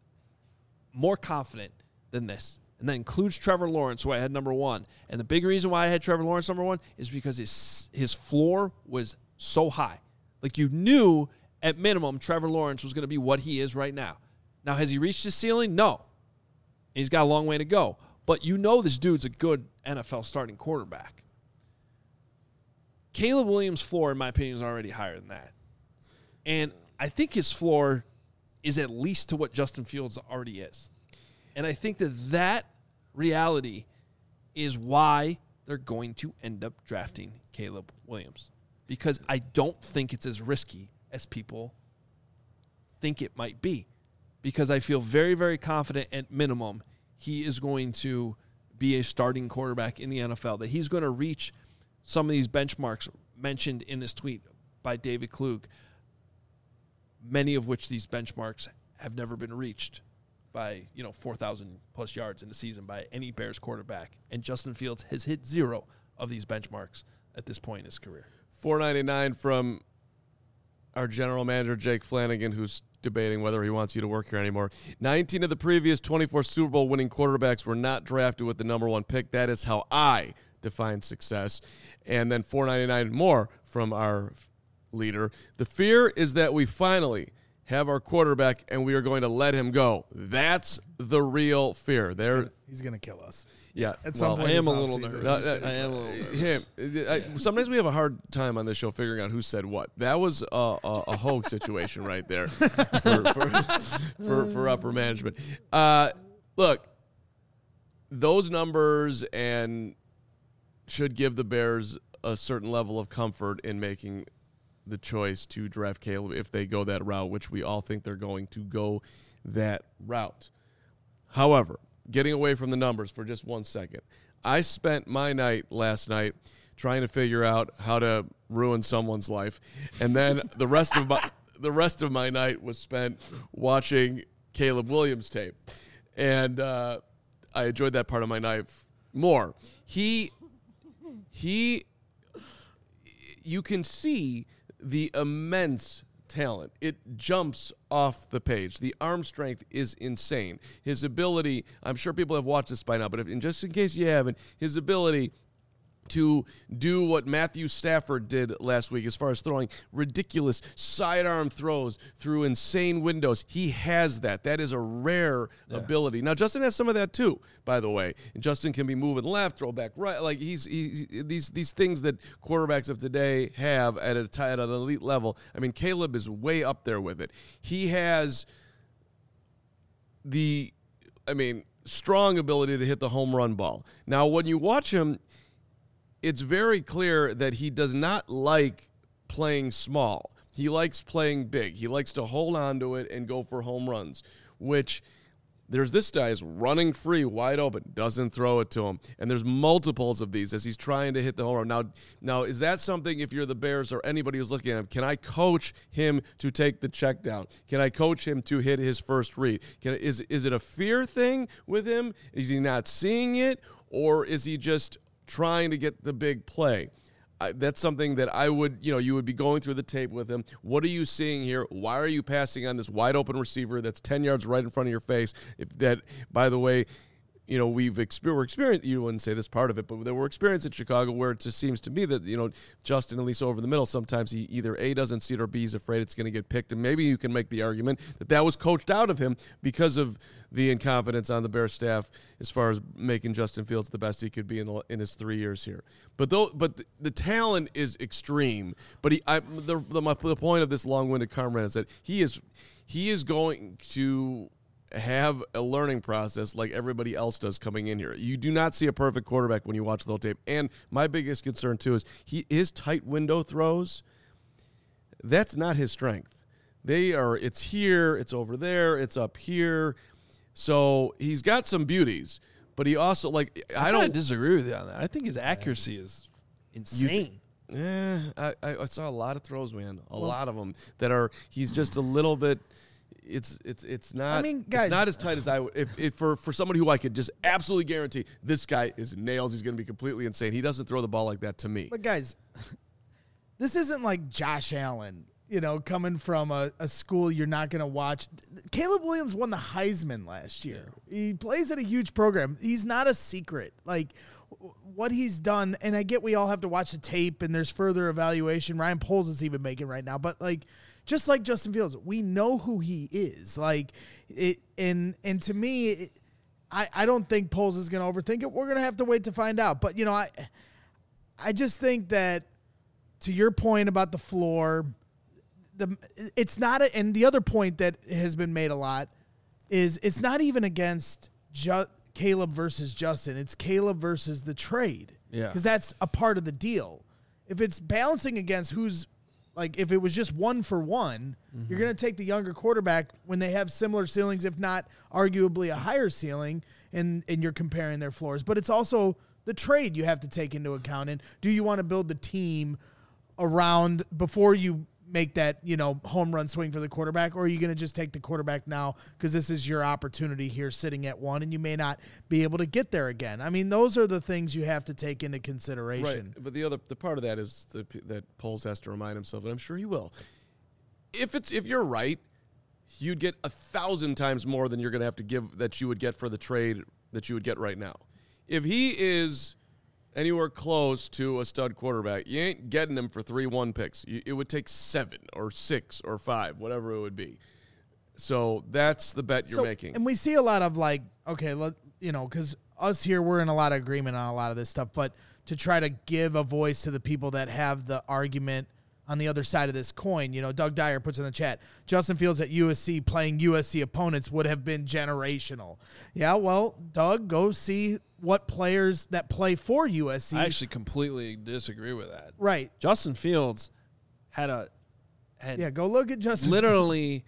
more confident than this. And that includes Trevor Lawrence, who I had number 1. And the big reason why I had Trevor Lawrence number 1 is because his floor was so high. Like, you knew at minimum Trevor Lawrence was going to be what he is right now. Now, has he reached his ceiling? No. He's got a long way to go. But you know this dude's a good NFL starting quarterback. Caleb Williams' floor, in my opinion, is already higher than that. And I think his floor is at least to what Justin Fields already is. And I think that reality is why they're going to end up drafting Caleb Williams. Because I don't think it's as risky as people think it might be. Because I feel very, very confident at minimum he is going to be a starting quarterback in the NFL, that he's going to reach some of these benchmarks mentioned in this tweet by David Klug, many of which these benchmarks have never been reached by 4,000 plus yards in the season by any Bears quarterback, and Justin Fields has hit 0 of these benchmarks at this point in his career. $4.99 from our general manager Jake Flanagan, who's debating whether he wants you to work here anymore. 19 of the previous 24 Super Bowl winning quarterbacks were not drafted with the number 1 pick. That is how I define success. And then $4.99 more from our leader. The fear is that we finally have our quarterback and we are going to let him go. That's the real fear. He's going to kill us. Yeah. At some point I am this a little offseason. nervous. I am a little nervous. Sometimes we have a hard time on this show figuring out who said what. That was a hoax situation right there for upper management. Look, those numbers and should give the Bears a certain level of comfort in making the choice to draft Caleb if they go that route, which we all think they're going to go that route. However, getting away from the numbers for just 1 second, I spent my night last night trying to figure out how to ruin someone's life, and then the rest of my night was spent watching Caleb Williams tape, and I enjoyed that part of my night more. You can see the immense talent. It jumps off the page. The arm strength is insane. His ability, I'm sure people have watched this by now, but just in case you haven't, his ability to do what Matthew Stafford did last week as far as throwing ridiculous sidearm throws through insane windows. He has that. That is a rare ability. Now, Justin has some of that too, by the way. And Justin can be moving left, throw back right. Like he's these things that quarterbacks of today have at an elite level. I mean, Caleb is way up there with it. He has strong ability to hit the home run ball. Now, when you watch him, it's very clear that he does not like playing small. He likes playing big. He likes to hold on to it and go for home runs, which there's this guy is running free, wide open, doesn't throw it to him. And there's multiples of these as he's trying to hit the home run. Now, is that something, if you're the Bears or anybody who's looking at him, can I coach him to take the check down? Can I coach him to hit his first read? Is it a fear thing with him? Is he not seeing it? Or is he just trying to get the big play? That's something that I would, you would be going through the tape with him. What are you seeing here? Why are you passing on this wide open receiver that's 10 yards right in front of your face? By the way, we're experienced, you wouldn't say this part of it, but there were experiences in Chicago where it just seems to me that, Justin, at least over the middle, sometimes he either A, doesn't see it, or B, is afraid it's going to get picked. And maybe you can make the argument that was coached out of him because of the incompetence on the Bears staff as far as making Justin Fields the best he could be in his 3 years here. But the talent is extreme. But the point of this long-winded comment is that he is going to have a learning process like everybody else does coming in here. You do not see a perfect quarterback when you watch the whole tape. And my biggest concern too is his tight window throws. That's not his strength. It's here, it's over there, it's up here. So he's got some beauties, but he also I don't disagree with you on that. I think his accuracy is insane. I saw a lot of throws, man. A lot of them he's just a little bit. It's not. I mean, guys, it's not as tight as I would. If for somebody who I could just absolutely guarantee this guy is nails, he's going to be completely insane. He doesn't throw the ball like that to me. But guys, this isn't like Josh Allen, coming from a school you're not going to watch. Caleb Williams won the Heisman last year. Yeah. He plays at a huge program. He's not a secret. Like what he's done, and I get we all have to watch the tape, and there's further evaluation. Ryan Poles is even making right now, but just like Justin Fields, we know who he is. And to me, I don't think Poles is going to overthink it. We're going to have to wait to find out. But, I just think that, to your point about the floor, it's not – and the other point that has been made a lot is it's not even against Caleb versus Justin. It's Caleb versus the trade. Yeah. Because that's a part of the deal. If it's balancing against who's – if it was just 1-for-1, you're going to take the younger quarterback when they have similar ceilings, if not arguably a higher ceiling, and you're comparing their floors. But it's also the trade you have to take into account. And do you want to build the team around before you make that, home run swing for the quarterback, or are you going to just take the quarterback now because this is your opportunity here sitting at 1 and you may not be able to get there again? I mean, those are the things you have to take into consideration. Right. But the part of that is that Poles has to remind himself, and I'm sure he will. If you're right, you'd get 1,000 times more than you're going to have to give that you would get for the trade that you would get right now. If he is anywhere close to a stud quarterback, you ain't getting him for 3-1 picks. It would take 7 or 6 or 5, whatever it would be. So that's the bet you're making. And we see a lot of because us here, we're in a lot of agreement on a lot of this stuff, but to try to give a voice to the people that have the argument on the other side of this coin, Doug Dyer puts in the chat, Justin Fields at USC playing USC opponents would have been generational. Yeah, well, Doug, go see what players that play for USC. I actually completely disagree with that. Right. Justin Fields go look at Justin. Literally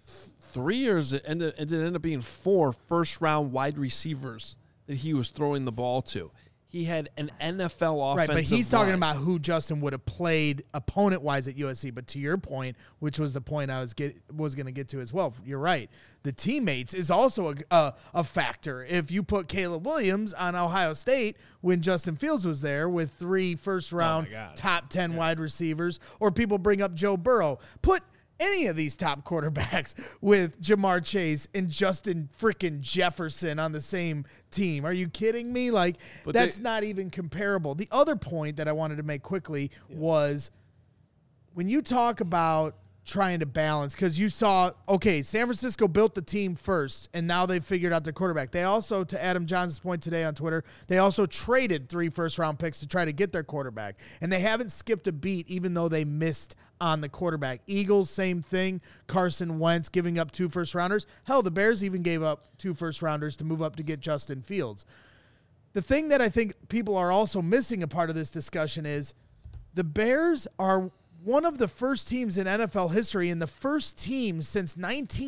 3 years, and it ended up being 4 first-round wide receivers that he was throwing the ball to. He had an NFL offensive right, but he's talking line. about who Justin would have played opponent-wise at USC. But to your point, which was the point I was going to get to as well, you're right. The teammates is also a factor. If you put Caleb Williams on Ohio State when Justin Fields was there with 3 first-round top 10 wide receivers, or people bring up Joe Burrow, put any of these top quarterbacks with Jamar Chase and Justin frickin' Jefferson on the same team. Are you kidding me? That's not even comparable. The other point that I wanted to make quickly was when you talk about trying to balance, because you saw, San Francisco built the team first, and now they've figured out their quarterback. They also, to Adam Johnson's point today on Twitter, they also traded 3 first-round picks to try to get their quarterback, and they haven't skipped a beat even though they missed on the quarterback. Eagles, same thing. Carson Wentz giving up 2 first-rounders. Hell, the Bears even gave up 2 first-rounders to move up to get Justin Fields. The thing that I think people are also missing a part of this discussion is the Bears are one of the first teams in NFL history and the first team since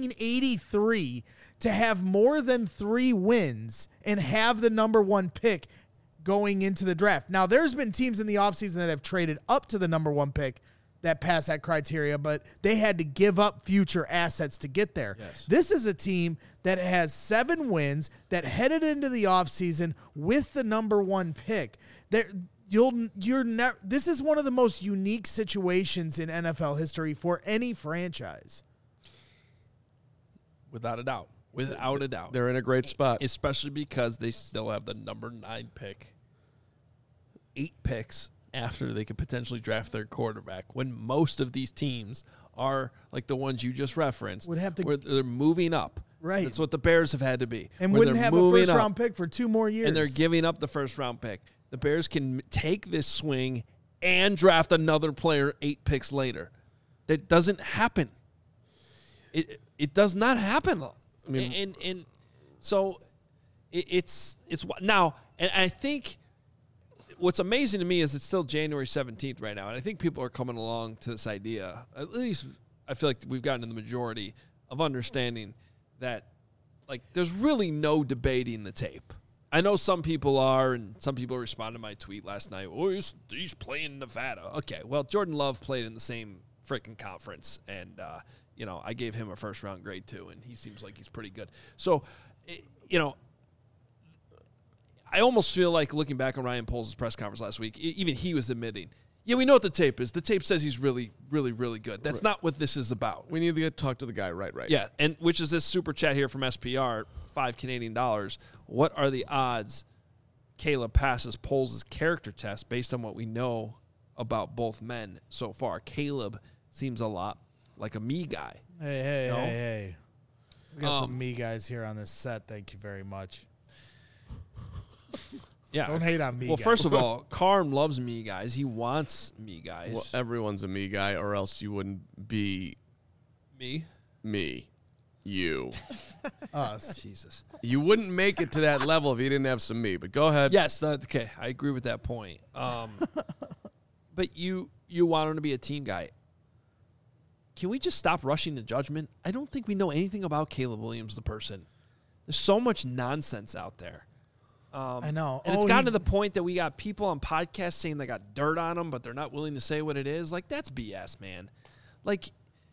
1983 to have more than 3 wins and have the number 1 pick going into the draft. Now, there's been teams in the offseason that have traded up to the number 1 pick that pass that criteria, but they had to give up future assets to get there. Yes. This is a team that has 7 wins that headed into the offseason with the number 1 pick. This is one of the most unique situations in NFL history for any franchise. Without a doubt. Without a doubt. They're in a great spot. Especially because they still have the number 9 pick. 8 picks after they could potentially draft their quarterback, when most of these teams are like the ones you just referenced, would have to, where they're moving up. Right. That's what the Bears have had to be. And wouldn't have a first-round pick for 2 more years. And they're giving up the first-round pick. The Bears can take this swing and draft another player 8 picks later. That doesn't happen. It does not happen. I mean, and so it's now, and I think what's amazing to me is it's still January 17th right now, and I think people are coming along to this idea. At least I feel like we've gotten to the majority of understanding that, like, there's really no debating the tape. I know some people are, and some people responded to my tweet last night. Oh, he's playing Nevada. Okay, well, Jordan Love played in the same freaking conference, and I gave him a first-round grade too, and he seems like he's pretty good. So, I almost feel like looking back on Ryan Poles' press conference last week, even he was admitting, yeah, we know what the tape is. The tape says he's really, really, really good. That's not what this is about. We need to talk to the guy, right? Yeah, and which is this super chat here from SPR, $5 Canadian. What are the odds Caleb passes Poles' character test based on what we know about both men so far? Caleb seems a lot like a me guy. Hey. We got some me guys here on this set. Thank you very much. Yeah. Don't hate on me Well, guys. first of all, Carm loves me guys. He wants me guys. Well, everyone's a me guy, or else you wouldn't be me. You. Us. Jesus. You wouldn't make it to that level if you didn't have some me, but go ahead. Yes, okay. I agree with that point. But you want him to be a team guy. Can we just stop rushing to judgment? I don't think we know anything about Caleb Williams, the person. There's so much nonsense out there. I know. And it's gotten to the point that we got people on podcasts saying they got dirt on them, but they're not willing to say what it is. Like, that's BS, man. Like,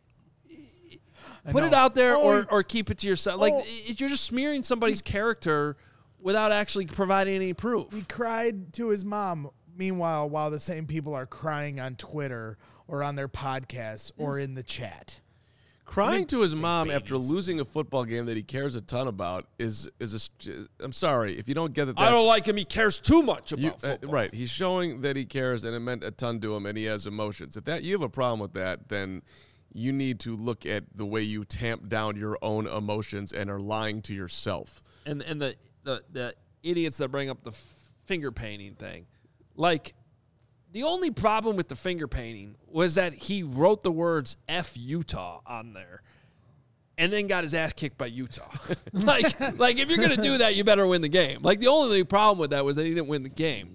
I put it know. out there Oh, or keep it to yourself. Like, Oh. you're just smearing somebody's character without actually providing any proof. He cried to his mom. Meanwhile, while the same people are crying on Twitter or on their podcasts or in the chat. Crying to his mom after losing a football game that he cares a ton about is I'm sorry if you don't get that. I don't like him. He cares too much about football. Right. He's showing that he cares, and it meant a ton to him, and he has emotions. If you have a problem with that, then you need to look at the way you tamp down your own emotions and are lying to yourself. And the idiots that bring up the finger painting thing, like, the only problem with the finger painting was that he wrote the words F Utah on there and then got his ass kicked by Utah. like if you're going to do that, you better win the game. Like, the only problem with that was that he didn't win the game.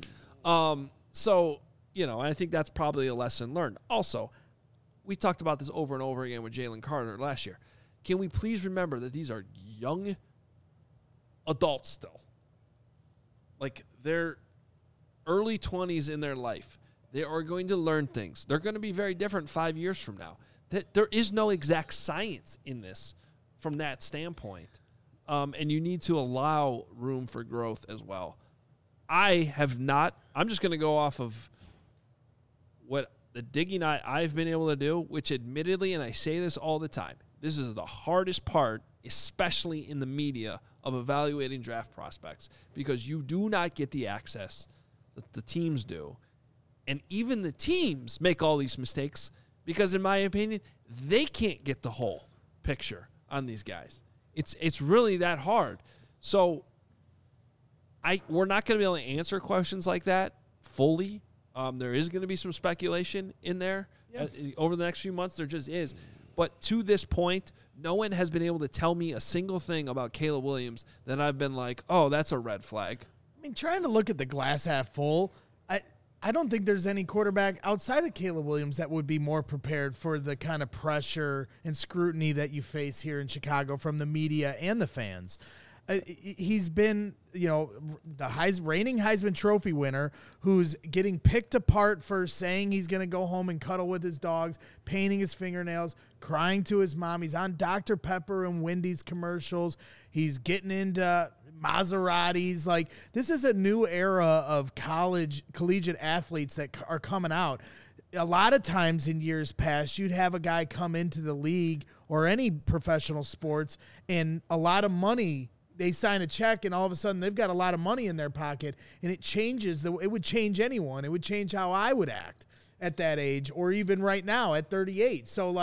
So, I think that's probably a lesson learned. Also, we talked about this over and over again with Jalen Carter last year. Can we please remember that these are young adults still? Like, they're early 20s in their life. They are going to learn things. They're going to be very different 5 years from now. There is no exact science in this from that standpoint. And you need to allow room for growth as well. I'm just going to go off of what the digging I've been able to do, which admittedly, and I say this all the time, this is the hardest part, especially in the media, of evaluating draft prospects, because you do not get the access that the teams do. And even the teams make all these mistakes because, in my opinion, they can't get the whole picture on these guys. It's really that hard. So we're not going to be able to answer questions like that fully. There is going to be some speculation in there over the next few months. There just is. But to this point, no one has been able to tell me a single thing about Caleb Williams that I've been like, oh, that's a red flag. I mean, trying to look at the glass half full, I don't think there's any quarterback outside of Caleb Williams that would be more prepared for the kind of pressure and scrutiny that you face here in Chicago from the media and the fans. He's been, the reigning Heisman Trophy winner who's getting picked apart for saying he's going to go home and cuddle with his dogs, painting his fingernails, crying to his mom. He's on Dr. Pepper and Wendy's commercials. He's getting into Maseratis. Like, this is a new era of collegiate athletes that are coming out. A lot of times in years past, you'd have a guy come into the league or any professional sports and a lot of money. They sign a check and all of a sudden they've got a lot of money in their pocket, and it changes. It would change anyone. It would change how I would act at that age, or even right now at 38. So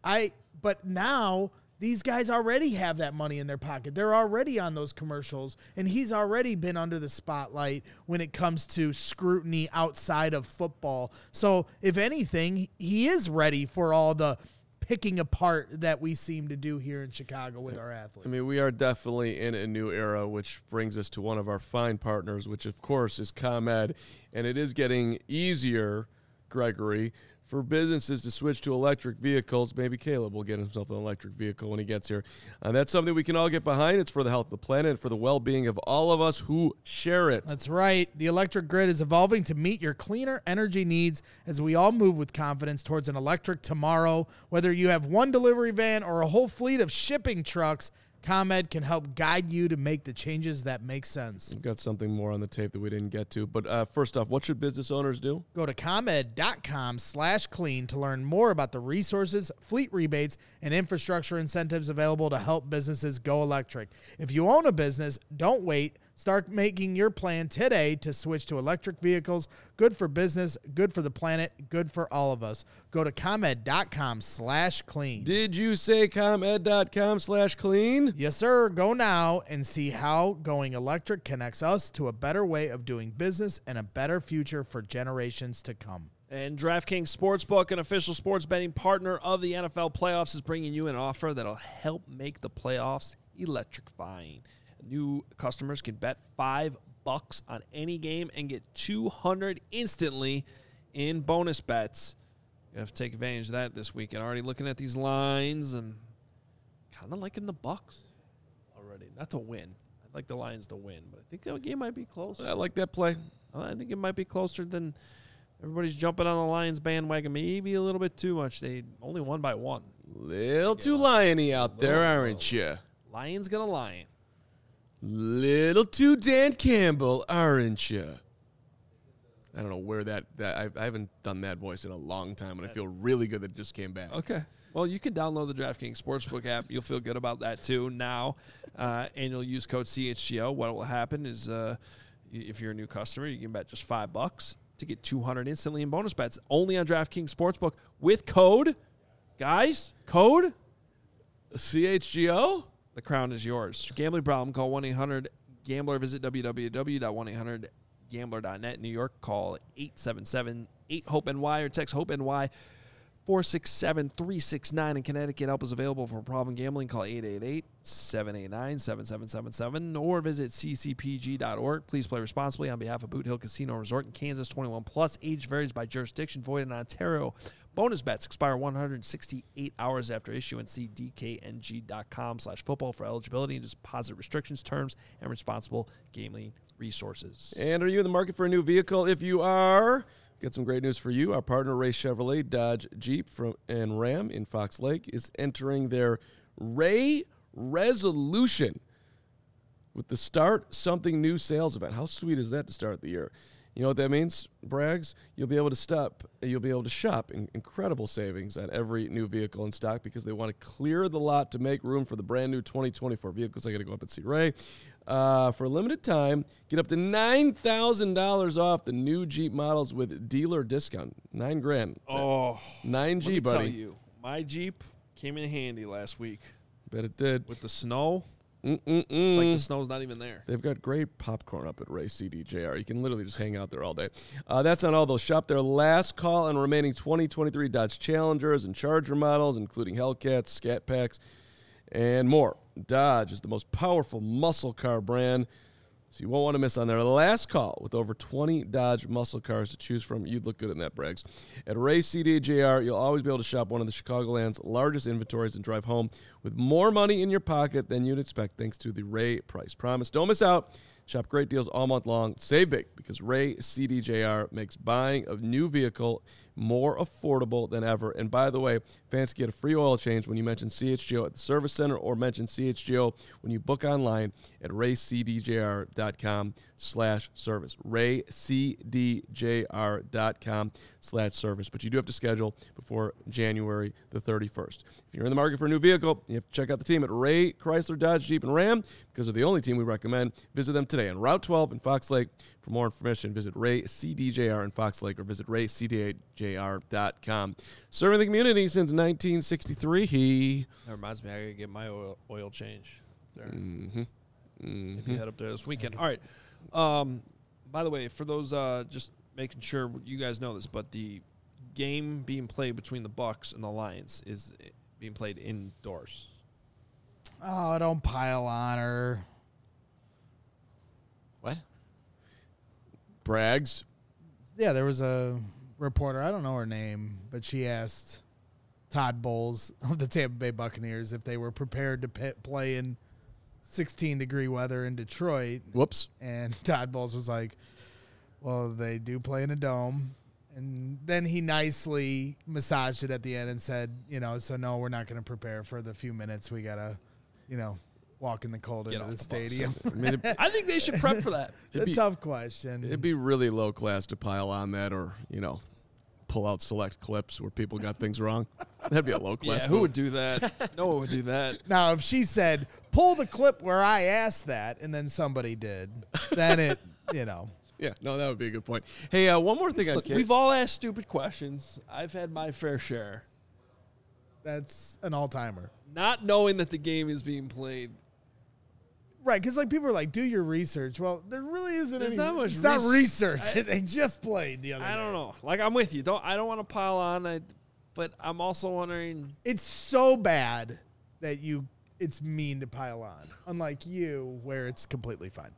but now these guys already have that money in their pocket. They're already on those commercials, and he's already been under the spotlight when it comes to scrutiny outside of football. So if anything, he is ready for all the picking apart that we seem to do here in Chicago with our athletes. I mean, we are definitely in a new era, which brings us to one of our fine partners, which, of course, is ComEd. And it is getting easier, Gregory, for businesses to switch to electric vehicles. Maybe Caleb will get himself an electric vehicle when he gets here. That's something we can all get behind. It's for the health of the planet and for the well-being of all of us who share it. That's right. The electric grid is evolving to meet your cleaner energy needs as we all move with confidence towards an electric tomorrow. Whether you have one delivery van or a whole fleet of shipping trucks, ComEd can help guide you to make the changes that make sense. We've got something more on the tape that we didn't get to. But first off, what should business owners do? Go to ComEd.com/clean to learn more about the resources, fleet rebates, and infrastructure incentives available to help businesses go electric. If you own a business, don't wait. Start making your plan today to switch to electric vehicles. Good for business, good for the planet, good for all of us. Go to ComEd.com/clean. Did you say ComEd.com/clean? Yes, sir. Go now and see how going electric connects us to a better way of doing business and a better future for generations to come. And DraftKings Sportsbook, an official sports betting partner of the NFL playoffs, is bringing you an offer that'll help make the playoffs electrifying. New customers can bet $5 on any game and get $200 instantly in bonus bets. You have to take advantage of that this weekend. Already looking at these lines and kind of liking the Bucs already. Not to win. I'd like the Lions to win, but I think that game might be close. I like that play. I think it might be closer than Everybody's jumping on the Lions bandwagon maybe a little bit too much. They only won by 1. Little too liony out there, aren't you? Lions gonna lion. Little too Dan Campbell, aren't you? I don't know where that I haven't done that voice in a long time, and I feel really good that it just came back. Okay. Well, you can download the DraftKings Sportsbook app. You'll feel good about that too now, and you'll use code CHGO. What will happen is if you're a new customer, you can bet just $5 to get $200 instantly in bonus bets only on DraftKings Sportsbook with code. Guys, code CHGO? The crown is yours. Gambling problem, call 1-800-GAMBLER. Visit www.1800gambler.net. In New York, call 877-8-HOPE-NY or text HOPE-NY 467-369. In Connecticut, help is available for problem gambling. Call 888-789-7777 or visit ccpg.org. Please play responsibly on behalf of Boot Hill Casino Resort in Kansas. 21 plus. Age varies by jurisdiction. Void in Ontario. Bonus bets expire 168 hours after issuance. See dkng.com/football for eligibility and deposit restrictions, terms, and responsible gambling resources. And are you in the market for a new vehicle? If you are, got some great news for you. Our partner, Ray Chevrolet, Dodge, Jeep, and Ram in Fox Lake is entering their Ray Resolution with the Start Something New sales event. How sweet is that to start the year? You know what that means, Braggs? You'll be able to shop in incredible savings on every new vehicle in stock because they want to clear the lot to make room for the brand new 2024 vehicles. I got to go up and see Ray. For a limited time, get up to $9,000 off the new Jeep models with dealer discount. $9,000. Oh, 9G, let me buddy. tell you, my Jeep came in handy last week. Bet it did. With the snow. It's like the snow's not even there. They've got great popcorn up at Ray CDJR. You can literally just hang out there all day. That's not all, though. Shop their last call on remaining 2023 Dodge Challengers and Charger models, including Hellcats, Scat Packs, and more. Dodge is the most powerful muscle car brand, so you won't want to miss on their last call. With over 20 Dodge muscle cars to choose from, you'd look good in that, Braggs. At Ray CDJR, you'll always be able to shop one of the Chicagoland's largest inventories and drive home with more money in your pocket than you'd expect thanks to the Ray Price Promise. Don't miss out. Shop great deals all month long. Save big because Ray CDJR makes buying a new vehicle more affordable than ever. And by the way, fans get a free oil change when you mention CHGO at the service center or mention CHGO when you book online at raycdjr.com/service. raycdjr.com/service. But you do have to schedule before January the 31st. If you're in the market for a new vehicle, you have to check out the team at Ray Chrysler, Dodge, Jeep, and Ram because they're the only team we recommend. Visit them today on Route 12 in Fox Lake. For more information, visit Ray CDJR in Fox Lake or visit raycdjr.com. Serving the community since 1963. That reminds me, I gotta get my oil change there. Mm-hmm. Maybe head up there this weekend. All right. By the way, for those just making sure you guys know this, but the game being played between the Bucks and the Lions is being played indoors. Oh, don't pile on her. What? Braggs. Yeah, there was a reporter, I don't know her name, but she asked Todd Bowles of the Tampa Bay Buccaneers if they were prepared to play in 16-degree weather in Detroit. Whoops. And Todd Bowles was like, well, they do play in a dome. And then he nicely massaged it at the end and said, so no, we're not going to prepare for the few minutes. We got to, walk in the cold into the stadium. I think they should prep for that. It's a tough question. It'd be really low class to pile on that or, pull out select clips where people got things wrong. That'd be a low class. Yeah, who would do that? No one would do that. Now, if she said, pull the clip where I asked that, and then somebody did, then it, Yeah, no, that would be a good point. Hey, one more thing. Look, we've all asked stupid questions. I've had my fair share. That's an all-timer. Not knowing that the game is being played. Right, because people are like, do your research. Well, there really isn't There's any. not much it's not research. I- They just played the other day. I don't know. Like, I'm with you. I don't want to pile on, but I'm also wondering. It's so bad that it's mean to pile on. Unlike you, where it's completely fine.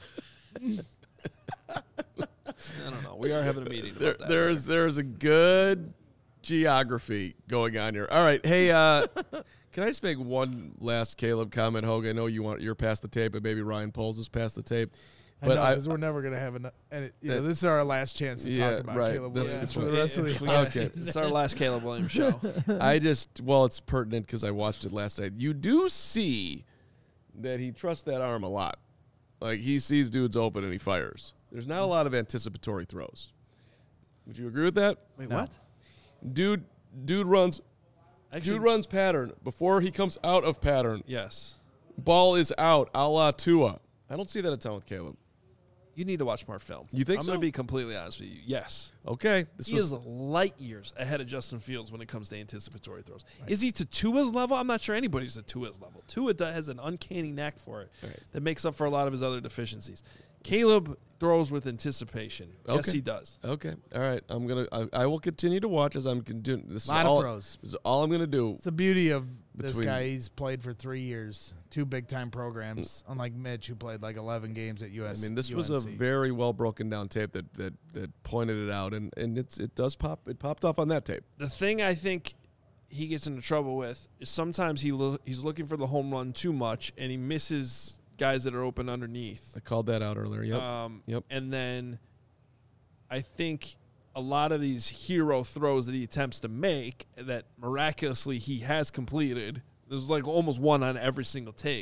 I don't know. We are having a meeting about that. There's a good geography going on here. All right, hey, can I just make one last Caleb comment, Hogue? I know you're past the tape, but maybe Ryan Poles is past the tape. But because we're never gonna have enough. And this is our last chance to Yeah, talk about right. Caleb That's a Williams good for the point. rest of the If we year. get- Okay. It's our last Caleb Williams show. it's pertinent because I watched it last night. You do see that he trusts that arm a lot. Like, he sees dudes open and he fires. There's not a lot of anticipatory throws. Would you agree with that? Wait, No. what? Dude runs Actually, Dude runs pattern. Before he comes out of pattern, yes. ball is out, a la Tua. I don't see that a ton with Caleb. You need to watch more film. You think I'm so? going to be completely honest with you. Yes. Okay. He is light years ahead of Justin Fields when it comes to anticipatory throws. Is he to Tua's level? I'm not sure anybody's at Tua's level. Tua has an uncanny knack for it that makes up for a lot of his other deficiencies. Caleb throws with anticipation. Yes, Okay. he does. Okay. All right. I will continue to watch as I'm doing this. Lot of throws. This is all I'm going to do. It's the beauty of this Between- guy. He's played for 3 years, 2 big-time programs, unlike Mitch, who played like 11 games at US. I mean, this was a UNC. very well broken down tape that pointed it out, and it does pop. It popped off on that tape. The thing I think he gets into trouble with is sometimes he's looking for the home run too much, and he misses guys that are open underneath. I called that out earlier. Yep. Yep. And then I think a lot of these hero throws that he attempts to make that miraculously he has completed, there's like almost one on every single tape.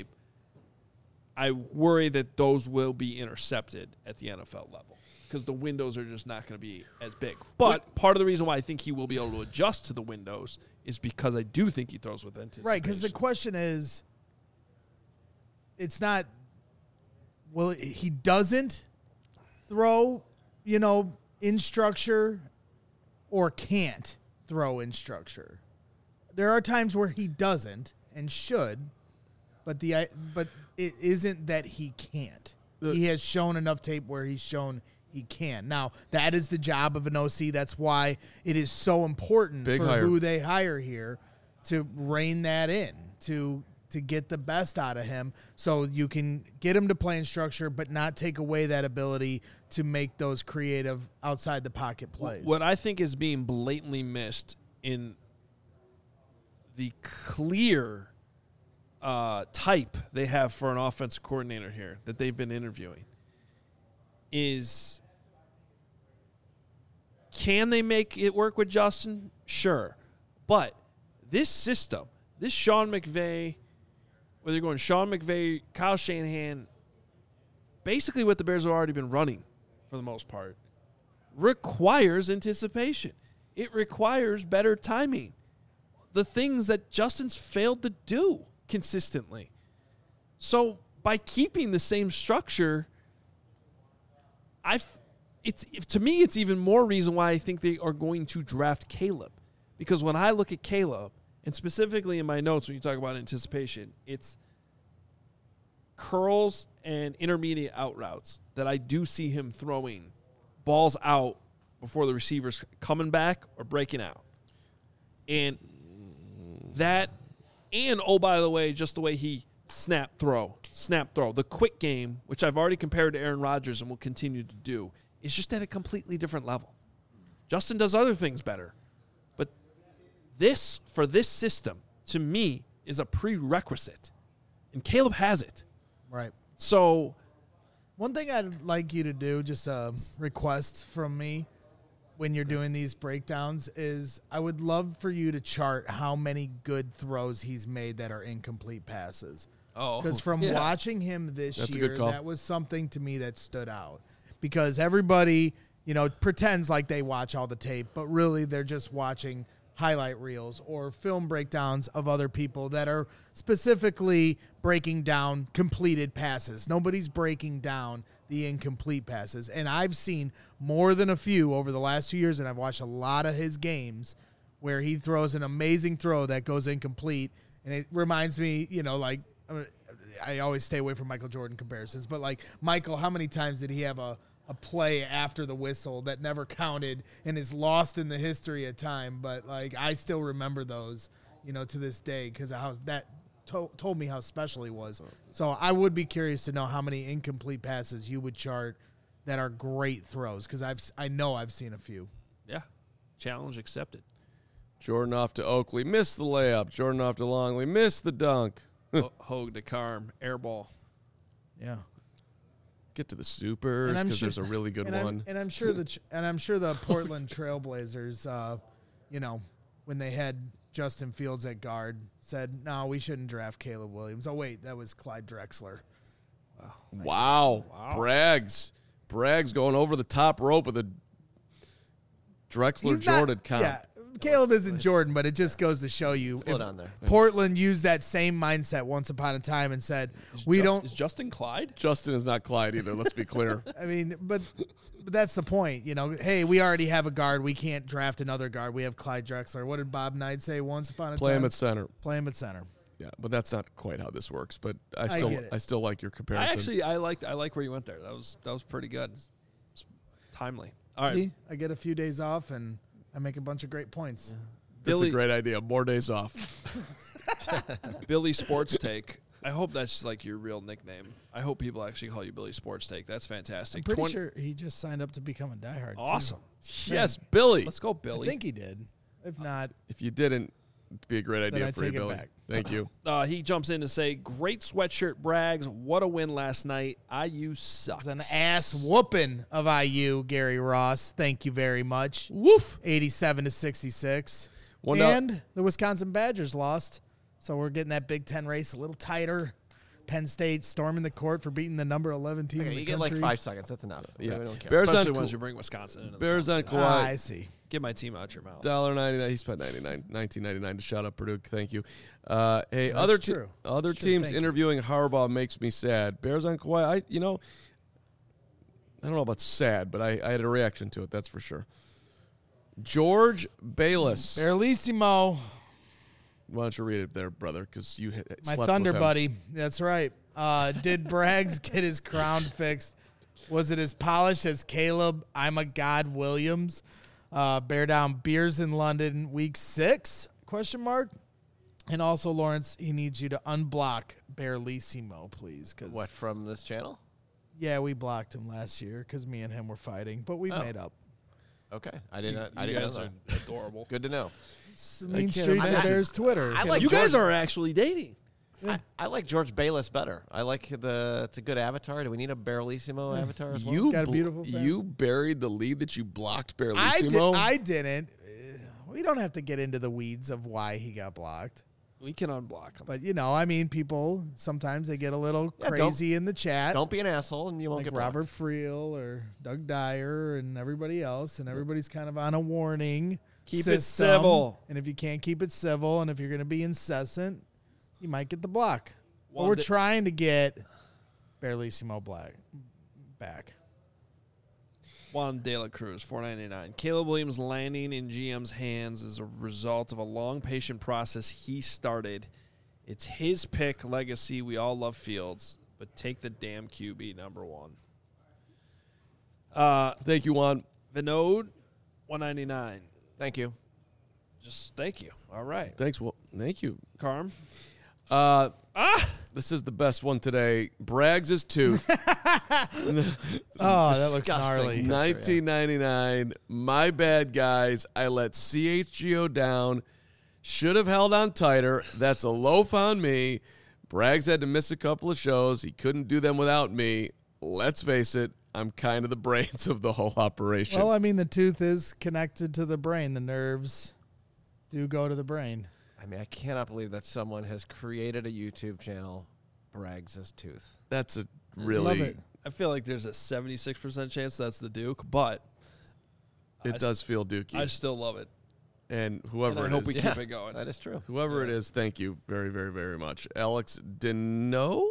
I worry that those will be intercepted at the NFL level because the windows are just not going to be as big. But part of the reason why I think he will be able to adjust to the windows is because I do think he throws with anticipation. Right, because the question is, it's not, well, he doesn't throw, in structure or can't throw in structure. There are times where he doesn't and should, but it isn't that he can't. He has shown enough tape where he's shown he can. Now, that is the job of an OC. That's why it is so important Big for hire. who they hire here to rein that in, to get the best out of him so you can get him to play in structure but not take away that ability to make those creative outside the pocket plays. What I think is being blatantly missed in the clear type they have for an offensive coordinator here that they've been interviewing is, can they make it work with Justin? Sure. But this system, this Sean McVay, whether you're going Sean McVay, Kyle Shanahan, basically what the Bears have already been running for the most part, requires anticipation. It requires better timing. The things that Justin's failed to do consistently. So by keeping the same structure, to me, it's even more reason why I think they are going to draft Caleb. Because when I look at Caleb, and specifically in my notes when you talk about anticipation, it's curls and intermediate out routes that I do see him throwing balls out before the receiver's coming back or breaking out. And that, and oh, by the way, just the way he snap, throw. The quick game, which I've already compared to Aaron Rodgers and will continue to do, is just at a completely different level. Justin does other things better. But for this system, to me, is a prerequisite. And Caleb has it. Right. So One thing I'd like you to do, just a request from me when you're doing these breakdowns, is I would love for you to chart how many good throws he's made that are incomplete passes. Because from watching him this That's a year, good call. that was something to me that stood out. Because everybody, pretends like they watch all the tape, but really they're just watching highlight reels or film breakdowns of other people that are specifically breaking down completed passes. Nobody's breaking down the incomplete passes. And I've seen more than a few over the last 2 years, and I've watched a lot of his games where he throws an amazing throw that goes incomplete. And it reminds me, I always stay away from Michael Jordan comparisons, but like Michael, how many times did he have a play after the whistle that never counted and is lost in the history of time? But like, I still remember those, to this day, because how that told me how special he was. So I would be curious to know how many incomplete passes you would chart that are great throws, because I know I've seen a few. yeah, challenge accepted. Jordan off to Oakley, missed the layup. Jordan off to Longley, missed the dunk. Hogue to Carm, air ball. Yeah. get to the Supers And I'm because sure- there's a really good and one. I'm sure the Portland Trailblazers, when they had Justin Fields at guard, said, "No, we shouldn't draft Caleb Williams." Oh wait, that was Clyde Drexler. Wow. Braggs going over the top rope with a Drexler Jordan comp. Yeah, Caleb isn't Jordan, but it just goes to show you. Slow if down there. Portland used that same mindset once upon a time and said, "We don't." Is Justin Clyde? Justin is not Clyde either. Let's be clear. I mean, but that's the point. Hey, we already have a guard. We can't draft another guard. We have Clyde Drexler. What did Bob Knight say once upon a Play time? him at center. Play him at center. Yeah, but that's not quite how this works. But get it. I still like your comparison. I like where you went there. That was pretty good. It's timely. All right, See, I get a few days off and I make a bunch of great points. That's Billy- a great idea. More days off. Billy Sports Take. I hope that's like your real nickname. I hope people actually call you Billy Sports Take. That's fantastic. I'm pretty sure he just signed up to become a diehard. too. Awesome. Yes, Billy. Let's go, I Billy. think he did. If not, If you didn't, it'd be a great idea I for you, take it Billy. back. Thank you. He jumps in to say, "Great sweatshirt, Braggs. What a win last night. IU sucks." it's an ass whooping of IU, Gary Ross. Thank you very much. Woof. 87-66. One out. And the Wisconsin Badgers lost. So we're getting that Big Ten race a little tighter. Penn State storming the court for beating the number 11 team in Okay, the you get like country. 5 seconds. That's enough. Yeah. We don't care. Bears Especially on once Ka- you bring Wisconsin into the Bears on conversation. Kawhi. I see. Get my team out your mouth. $1.99. He spent $19.99 to shout out Purdue. Thank you. Hey, That's other true. other That's true. teams Thank you. interviewing Harbaugh makes me sad. Bears on Kawhi. I don't know about sad, but I had a reaction to it. That's for sure. George Bayless. Barlissimo, Why don't you read it there, brother? Because you my slept Thunder with him. buddy. That's right. Did Braggs get his crown fixed? Was it as polished as Caleb I'm a God Williams? Bear down beers in London week 6? Question mark. And also, Lawrence, he needs you to unblock Barlissimo, please. Cause What, from this channel? Yeah, we blocked him last year because me and him were fighting, but we Oh. made up. Okay. I didn't You know guys that. are adorable. Good to know. It's the Mean can't Streets of imagine. Bears Twitter. I like You guys George- are actually dating. I like George Bayless better. I like it's a good avatar. Do we need a Barlissimo avatar as well? You Got a beautiful fan. you buried the lead that you blocked Barlissimo. I didn't. We don't have to get into the weeds of why he got blocked. We can unblock him. But, people, sometimes they get a little Yeah, crazy in the chat. Don't be an asshole and you won't Like get Robert blocked. Friel or Doug Dyer and everybody else. And everybody's kind of on a warning Keep it system. civil. And if you can't keep it civil and if you're going to be incessant, you might get the block. But Well, we're the- trying to get Barlissimo back. Juan De La Cruz, $4.99. Caleb Williams landing in GM's hands is a result of a long, patient process he started. It's his pick, legacy. We all love Fields, but take the damn QB number 1. Thank you, Juan. Vinod, $1.99. Thank you. Just thank you. All right. Thanks. Well, thank you. Carm. This is the best one today. Braggs' tooth. Oh, that looks disgusting. gnarly. $19.99. My bad, guys. I let CHGO down. Should have held on tighter. That's a loaf on me. Braggs had to miss a couple of shows. He couldn't do them without me. Let's face it, I'm kind of the brains of the whole operation. Well, I mean, the tooth is connected to the brain. The nerves do go to the brain. I mean, I cannot believe that someone has created a YouTube channel, Braggs' Tooth. That's a Love really, it. I feel like there's a 76% chance that's the Duke, but it does feel dookie. I still love it. And whoever And I it hope is, we keep it going. That is true. whoever it is, thank you very, very, very much. Alex Deno,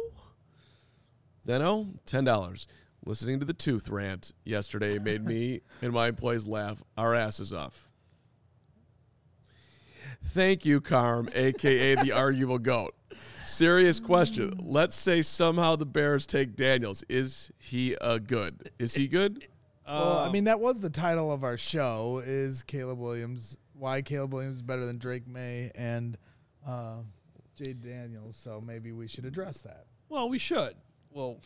$10. Listening to the tooth rant yesterday made me and my employees laugh our asses off. Thank you, Carm, a.k.a. the arguable goat. Serious question. Let's say somehow the Bears take Daniels. Is he good? Is he good? Well, I mean, that was the title of our show, is Caleb Williams, why Caleb Williams is better than Drake May and Jade Daniels, so maybe we should address that. Well, we should. Well,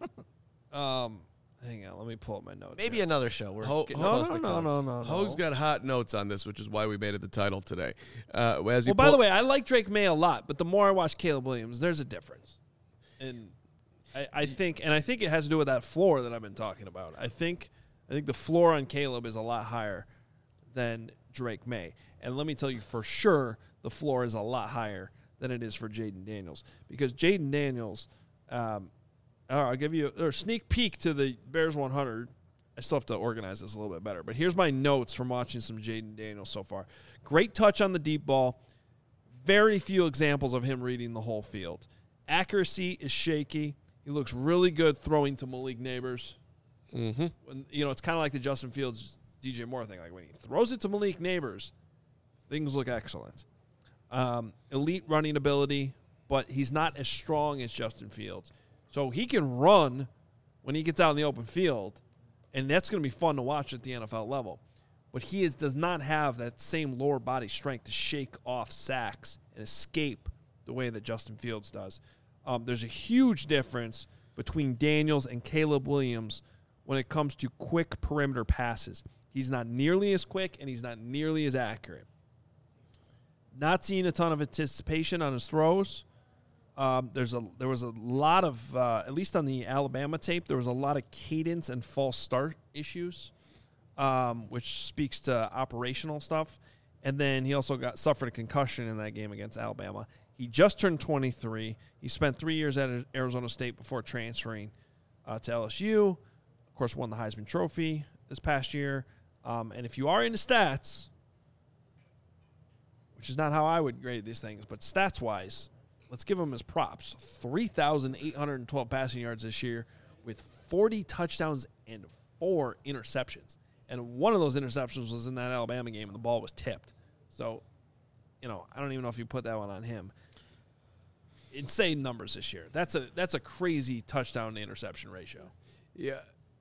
hang on. Let me pull up my notes. Maybe here. another show. We're Ho- getting ho- close to close. No. Ho's got hot notes on this, which is why we made it the title today. As you Well, by the way, I like Drake May a lot, but the more I watch Caleb Williams, there's a difference. And I think it has to do with that floor that I've been talking about. I think the floor on Caleb is a lot higher than Drake May. And let me tell you for sure, the floor is a lot higher than it is for Jaden Daniels. Because Jaden Daniels, I'll give you a sneak peek to the Bears 100. I still have to organize this a little bit better. But here's my notes from watching some Jaden Daniels so far. Great touch on the deep ball. Very few examples of him reading the whole field. Accuracy is shaky. He looks really good throwing to Malik Neighbors. Mm-hmm. When, it's kind of like the Justin Fields, DJ Moore thing. Like when he throws it to Malik Neighbors, things look excellent. Elite running ability, but he's not as strong as Justin Fields. So he can run when he gets out in the open field, and that's going to be fun to watch at the NFL level. But he does not have that same lower body strength to shake off sacks and escape the way that Justin Fields does. There's a huge difference between Daniels and Caleb Williams when it comes to quick perimeter passes. He's not nearly as quick, and he's not nearly as accurate. Not seeing a ton of anticipation on his throws. There was a lot of, at least on the Alabama tape, there was a lot of cadence and false start issues, which speaks to operational stuff. And then he also suffered a concussion in that game against Alabama. He just turned 23. He spent 3 years at Arizona State before transferring to LSU. Of course, won the Heisman Trophy this past year. And if you are into stats, which is not how I would grade these things, but stats-wise, let's give him his props. 3,812 passing yards this year with 40 touchdowns and 4 interceptions. And one of those interceptions was in that Alabama game, and the ball was tipped. So, I don't even know if you put that one on him. Insane numbers this year. That's a crazy touchdown to interception ratio. Yeah.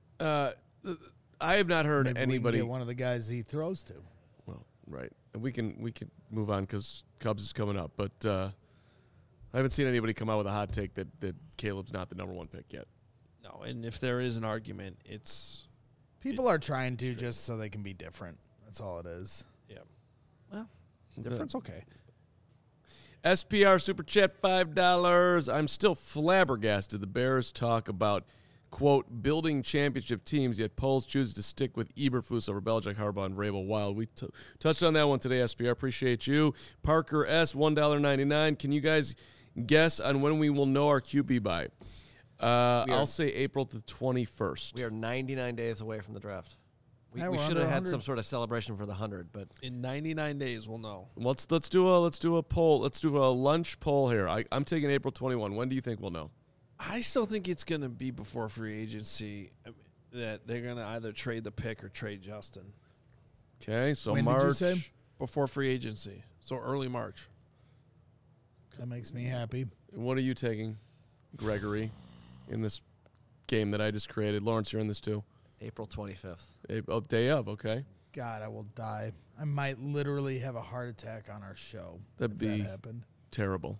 I have not heard Maybe anybody. We can get one of the guys he throws to. Well, right. And we can move on because Cubs is coming up. But I haven't seen anybody come out with a hot take that Caleb's not the number 1 pick yet. No, and if there is an argument, it's... People are trying to just so they can be different. That's all it is. Yeah. Well, difference, okay. SPR Super Chat, $5. I'm still flabbergasted. The Bears talk about, quote, building championship teams, yet Poles chooses to stick with Eberflus over Belichick, Harbaugh, and Vrabel Wild. We touched on that one today, SPR. Appreciate you. Parker S., $1.99. Can you guys guess on when we will know our QB by? I'll say April the 21st. We are 99 days away from the draft. We Yeah, we're should under have had 100. some sort of celebration for the 100, but In 99 days, we'll know. Let's do a poll. Let's do a lunch poll here. I'm taking April 21. When do you think we'll know? I still think it's going to be before free agency that they're going to either trade the pick or trade Justin. Okay, so When did March. you say? Before free agency. So early March. That makes me happy. What are you taking, Gregory, in this game that I just created? Lawrence, you're in this too. April 25th. Day of, okay. God, I will die. I might literally have a heart attack on our show. That'd if be that happened. terrible.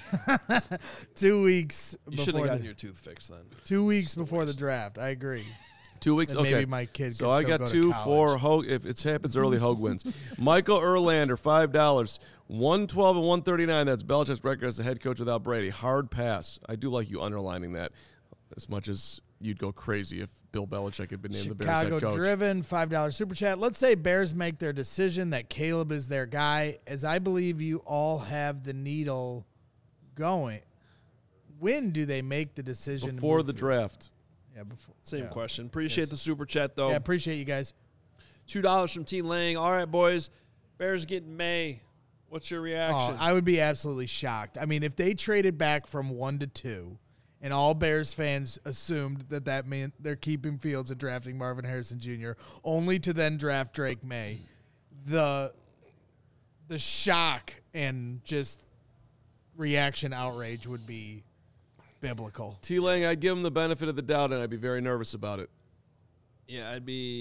2 weeks You should have before gotten the, your tooth fixed then. 2 weeks before the draft. I agree. 2 weeks, Then okay. maybe my kid So could I still got go to 2 college. for Hogue. If it happens early, Hogue wins. Michael Erlander, $5. 112 and 139. That's Belichick's record as the head coach without Brady. Hard pass. I do like you underlining that as much as you'd go crazy if Bill Belichick had been named the Bears head coach. Chicago driven, $5 super chat. Let's say Bears make their decision that Caleb is their guy, as I believe you all have the needle going. When do they make the decision? Before the draft. Yeah, before. Same yeah. question. Appreciate Yes. the super chat, though. Yeah, appreciate you guys. $2 from T. Lang. All right, boys. Bears getting May. What's your reaction? I would be absolutely shocked. I mean, if they traded back from 1 to 2, and all Bears fans assumed that meant they're keeping Fields and drafting Marvin Harrison Jr., only to then draft Drake May, the shock and just reaction outrage would be biblical. T. Lang, I'd give him the benefit of the doubt, and I'd be very nervous about it. Yeah,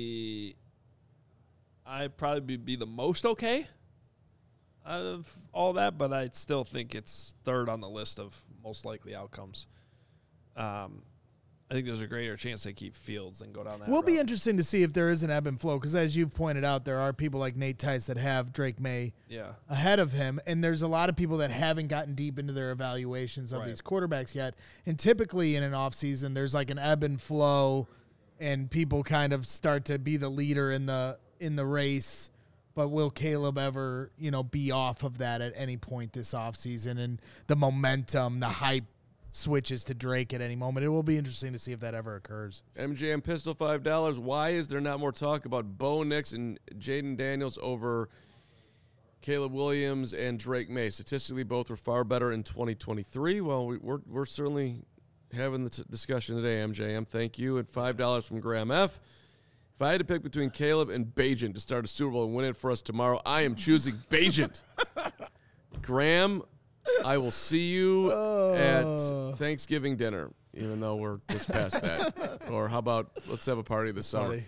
I'd probably be the most okay out of all that, but I still think it's third on the list of most likely outcomes. I think there's a greater chance they keep Fields than go down that Will be route. interesting to see if there is an ebb and flow because, as you've pointed out, there are people like Nate Tice that have Drake May Yeah. ahead of him, and there's a lot of people that haven't gotten deep into their evaluations of Right. these quarterbacks yet. And typically in an offseason, there's like an ebb and flow, and people kind of start to be the leader in the race. But will Caleb ever, be off of that at any point this offseason? And the momentum, the hype switches to Drake at any moment. It will be interesting to see if that ever occurs. MJM Pistol $5. Why is there not more talk about Bo Nix and Jaden Daniels over Caleb Williams and Drake May? Statistically, both were far better in 2023. Well, we're certainly having the discussion today, MJM. Thank you. And $5 from Graham F. If I had to pick between Caleb and Bajent to start a Super Bowl and win it for us tomorrow, I am choosing Bajent. Graham, I will see you at Thanksgiving dinner, even though we're just past that. Or how about let's have a party this summer.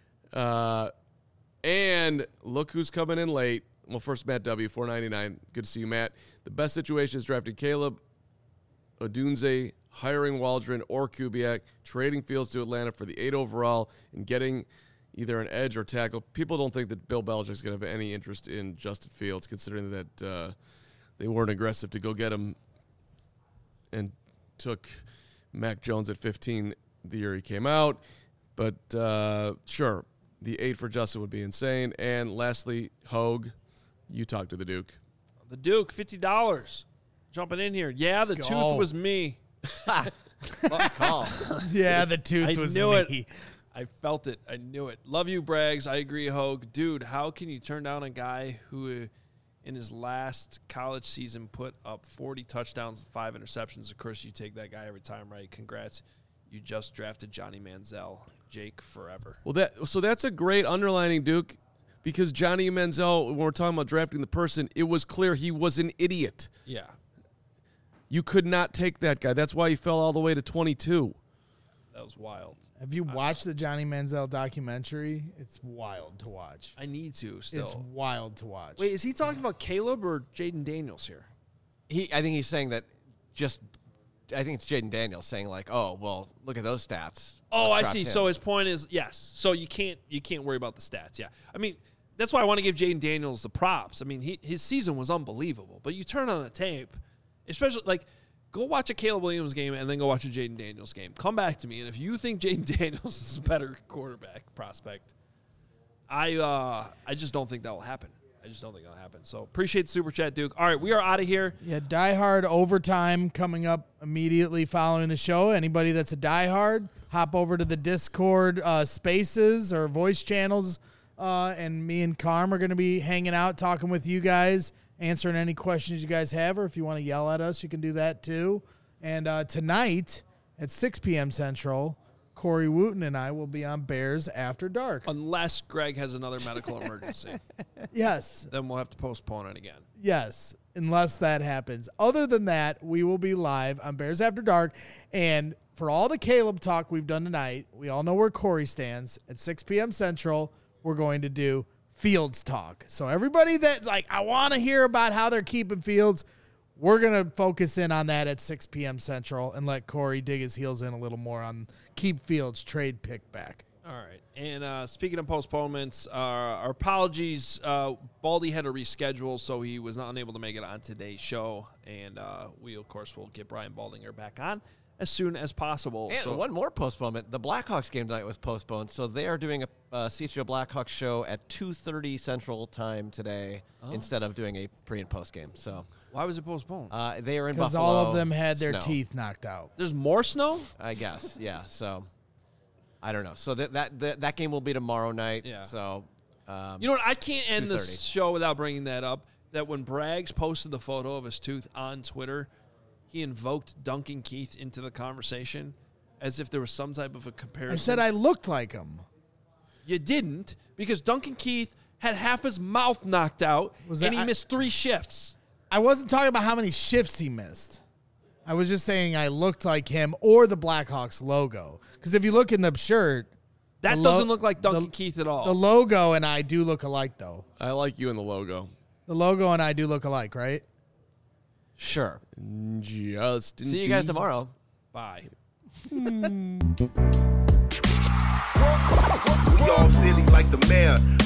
And look who's coming in late. Well, first, Matt W., $4.99. Good to see you, Matt. The best situation is drafting Caleb, Odunze, hiring Waldron or Kubiak, trading Fields to Atlanta for the 8 overall, and getting either an edge or tackle. People don't think that Bill Belichick's going to have any interest in Justin Fields, considering that they weren't aggressive to go get him and took Mac Jones at 15 the year he came out. But sure, the 8 for Justin would be insane. And lastly, Hogue, you talk to the Duke. The Duke, $50. Jumping in here. Yeah, the Let's tooth go. was me. Call. Yeah, the tooth I was knew me. it. I felt it. I knew it. Love you, Braggs. I agree, Hogue. Dude, how can you turn down a guy who in his last college season put up 40 touchdowns and 5 interceptions? Of course, you take that guy every time, right? Congrats. You just drafted Johnny Manziel. Jake forever. Well, that's a great underlining, Duke, because Johnny Manziel, when we're talking about drafting the person, it was clear he was an idiot. Yeah. You could not take that guy. That's why he fell all the way to 22. That was wild. Have you watched the Johnny Manziel documentary? It's wild to watch. I need to still. It's wild to watch. Wait, is he talking about Caleb or Jaden Daniels here? I think he's saying that I think it's Jaden Daniels saying like, oh, well, look at those stats. Oh, Let's I draft see. him. So his point is, yes. So you can't worry about the stats. Yeah. I mean, that's why I want to give Jaden Daniels the props. I mean, his season was unbelievable. But you turn on the tape, especially like go watch a Caleb Williams game and then go watch a Jaden Daniels game. Come back to me, and if you think Jaden Daniels is a better quarterback prospect, I just don't think that will happen. I just don't think that'll happen. So appreciate the super chat, Duke. All right, we are out of here. Yeah, Die Hard overtime coming up immediately following the show. Anybody that's a Die Hard, hop over to the Discord spaces or voice channels, and me and Carm are going to be hanging out, talking with you guys, answering any questions you guys have, or if you want to yell at us, you can do that too. And tonight at 6 p.m. Central, Corey Wooten and I will be on Bears After Dark. Unless Greg has another medical emergency, Yes. then we'll have to postpone it again. Yes, unless that happens. Other than that, we will be live on Bears After Dark. And for all the Caleb talk we've done tonight, we all know where Corey stands. At 6 p.m. Central, we're going to do Fields talk. So everybody that's like, I want to hear about how they're keeping Fields, we're going to focus in on that at 6 p.m. Central and let Corey dig his heels in a little more on keep Fields trade pick back. All right. And speaking of postponements, our apologies. Baldy had to reschedule, so he was not unable to make it on today's show. And we, of course, will get Brian Baldinger back on as soon as possible. And So one more postponement. The Blackhawks game tonight was postponed, so they are doing a CHGO Blackhawks show at 2:30 Central Time today instead of doing a pre- and post game. So why was it postponed? they are in Because Buffalo. all of them had their Snow, teeth knocked out. There's more snow? I guess, yeah. So I don't know. So that game will be tomorrow night. Yeah. So You know what? I can't end this 2:30. show without bringing that up. That when Braggs posted the photo of his tooth on Twitter, he invoked Duncan Keith into the conversation as if there was some type of a comparison. I said I looked like him. You didn't, because Duncan Keith had half his mouth knocked out, Was and that- he missed 3 shifts. I wasn't talking about how many shifts he missed. I was just saying I looked like him or the Blackhawks logo. Because if you look in the shirt, That The doesn't lo- look like Duncan the- Keith at all. the logo and I do look alike, though. I like you in the logo. The logo and I do look alike, right? sure. Justin. See you guys tomorrow. Bye. We all silly like the mayor.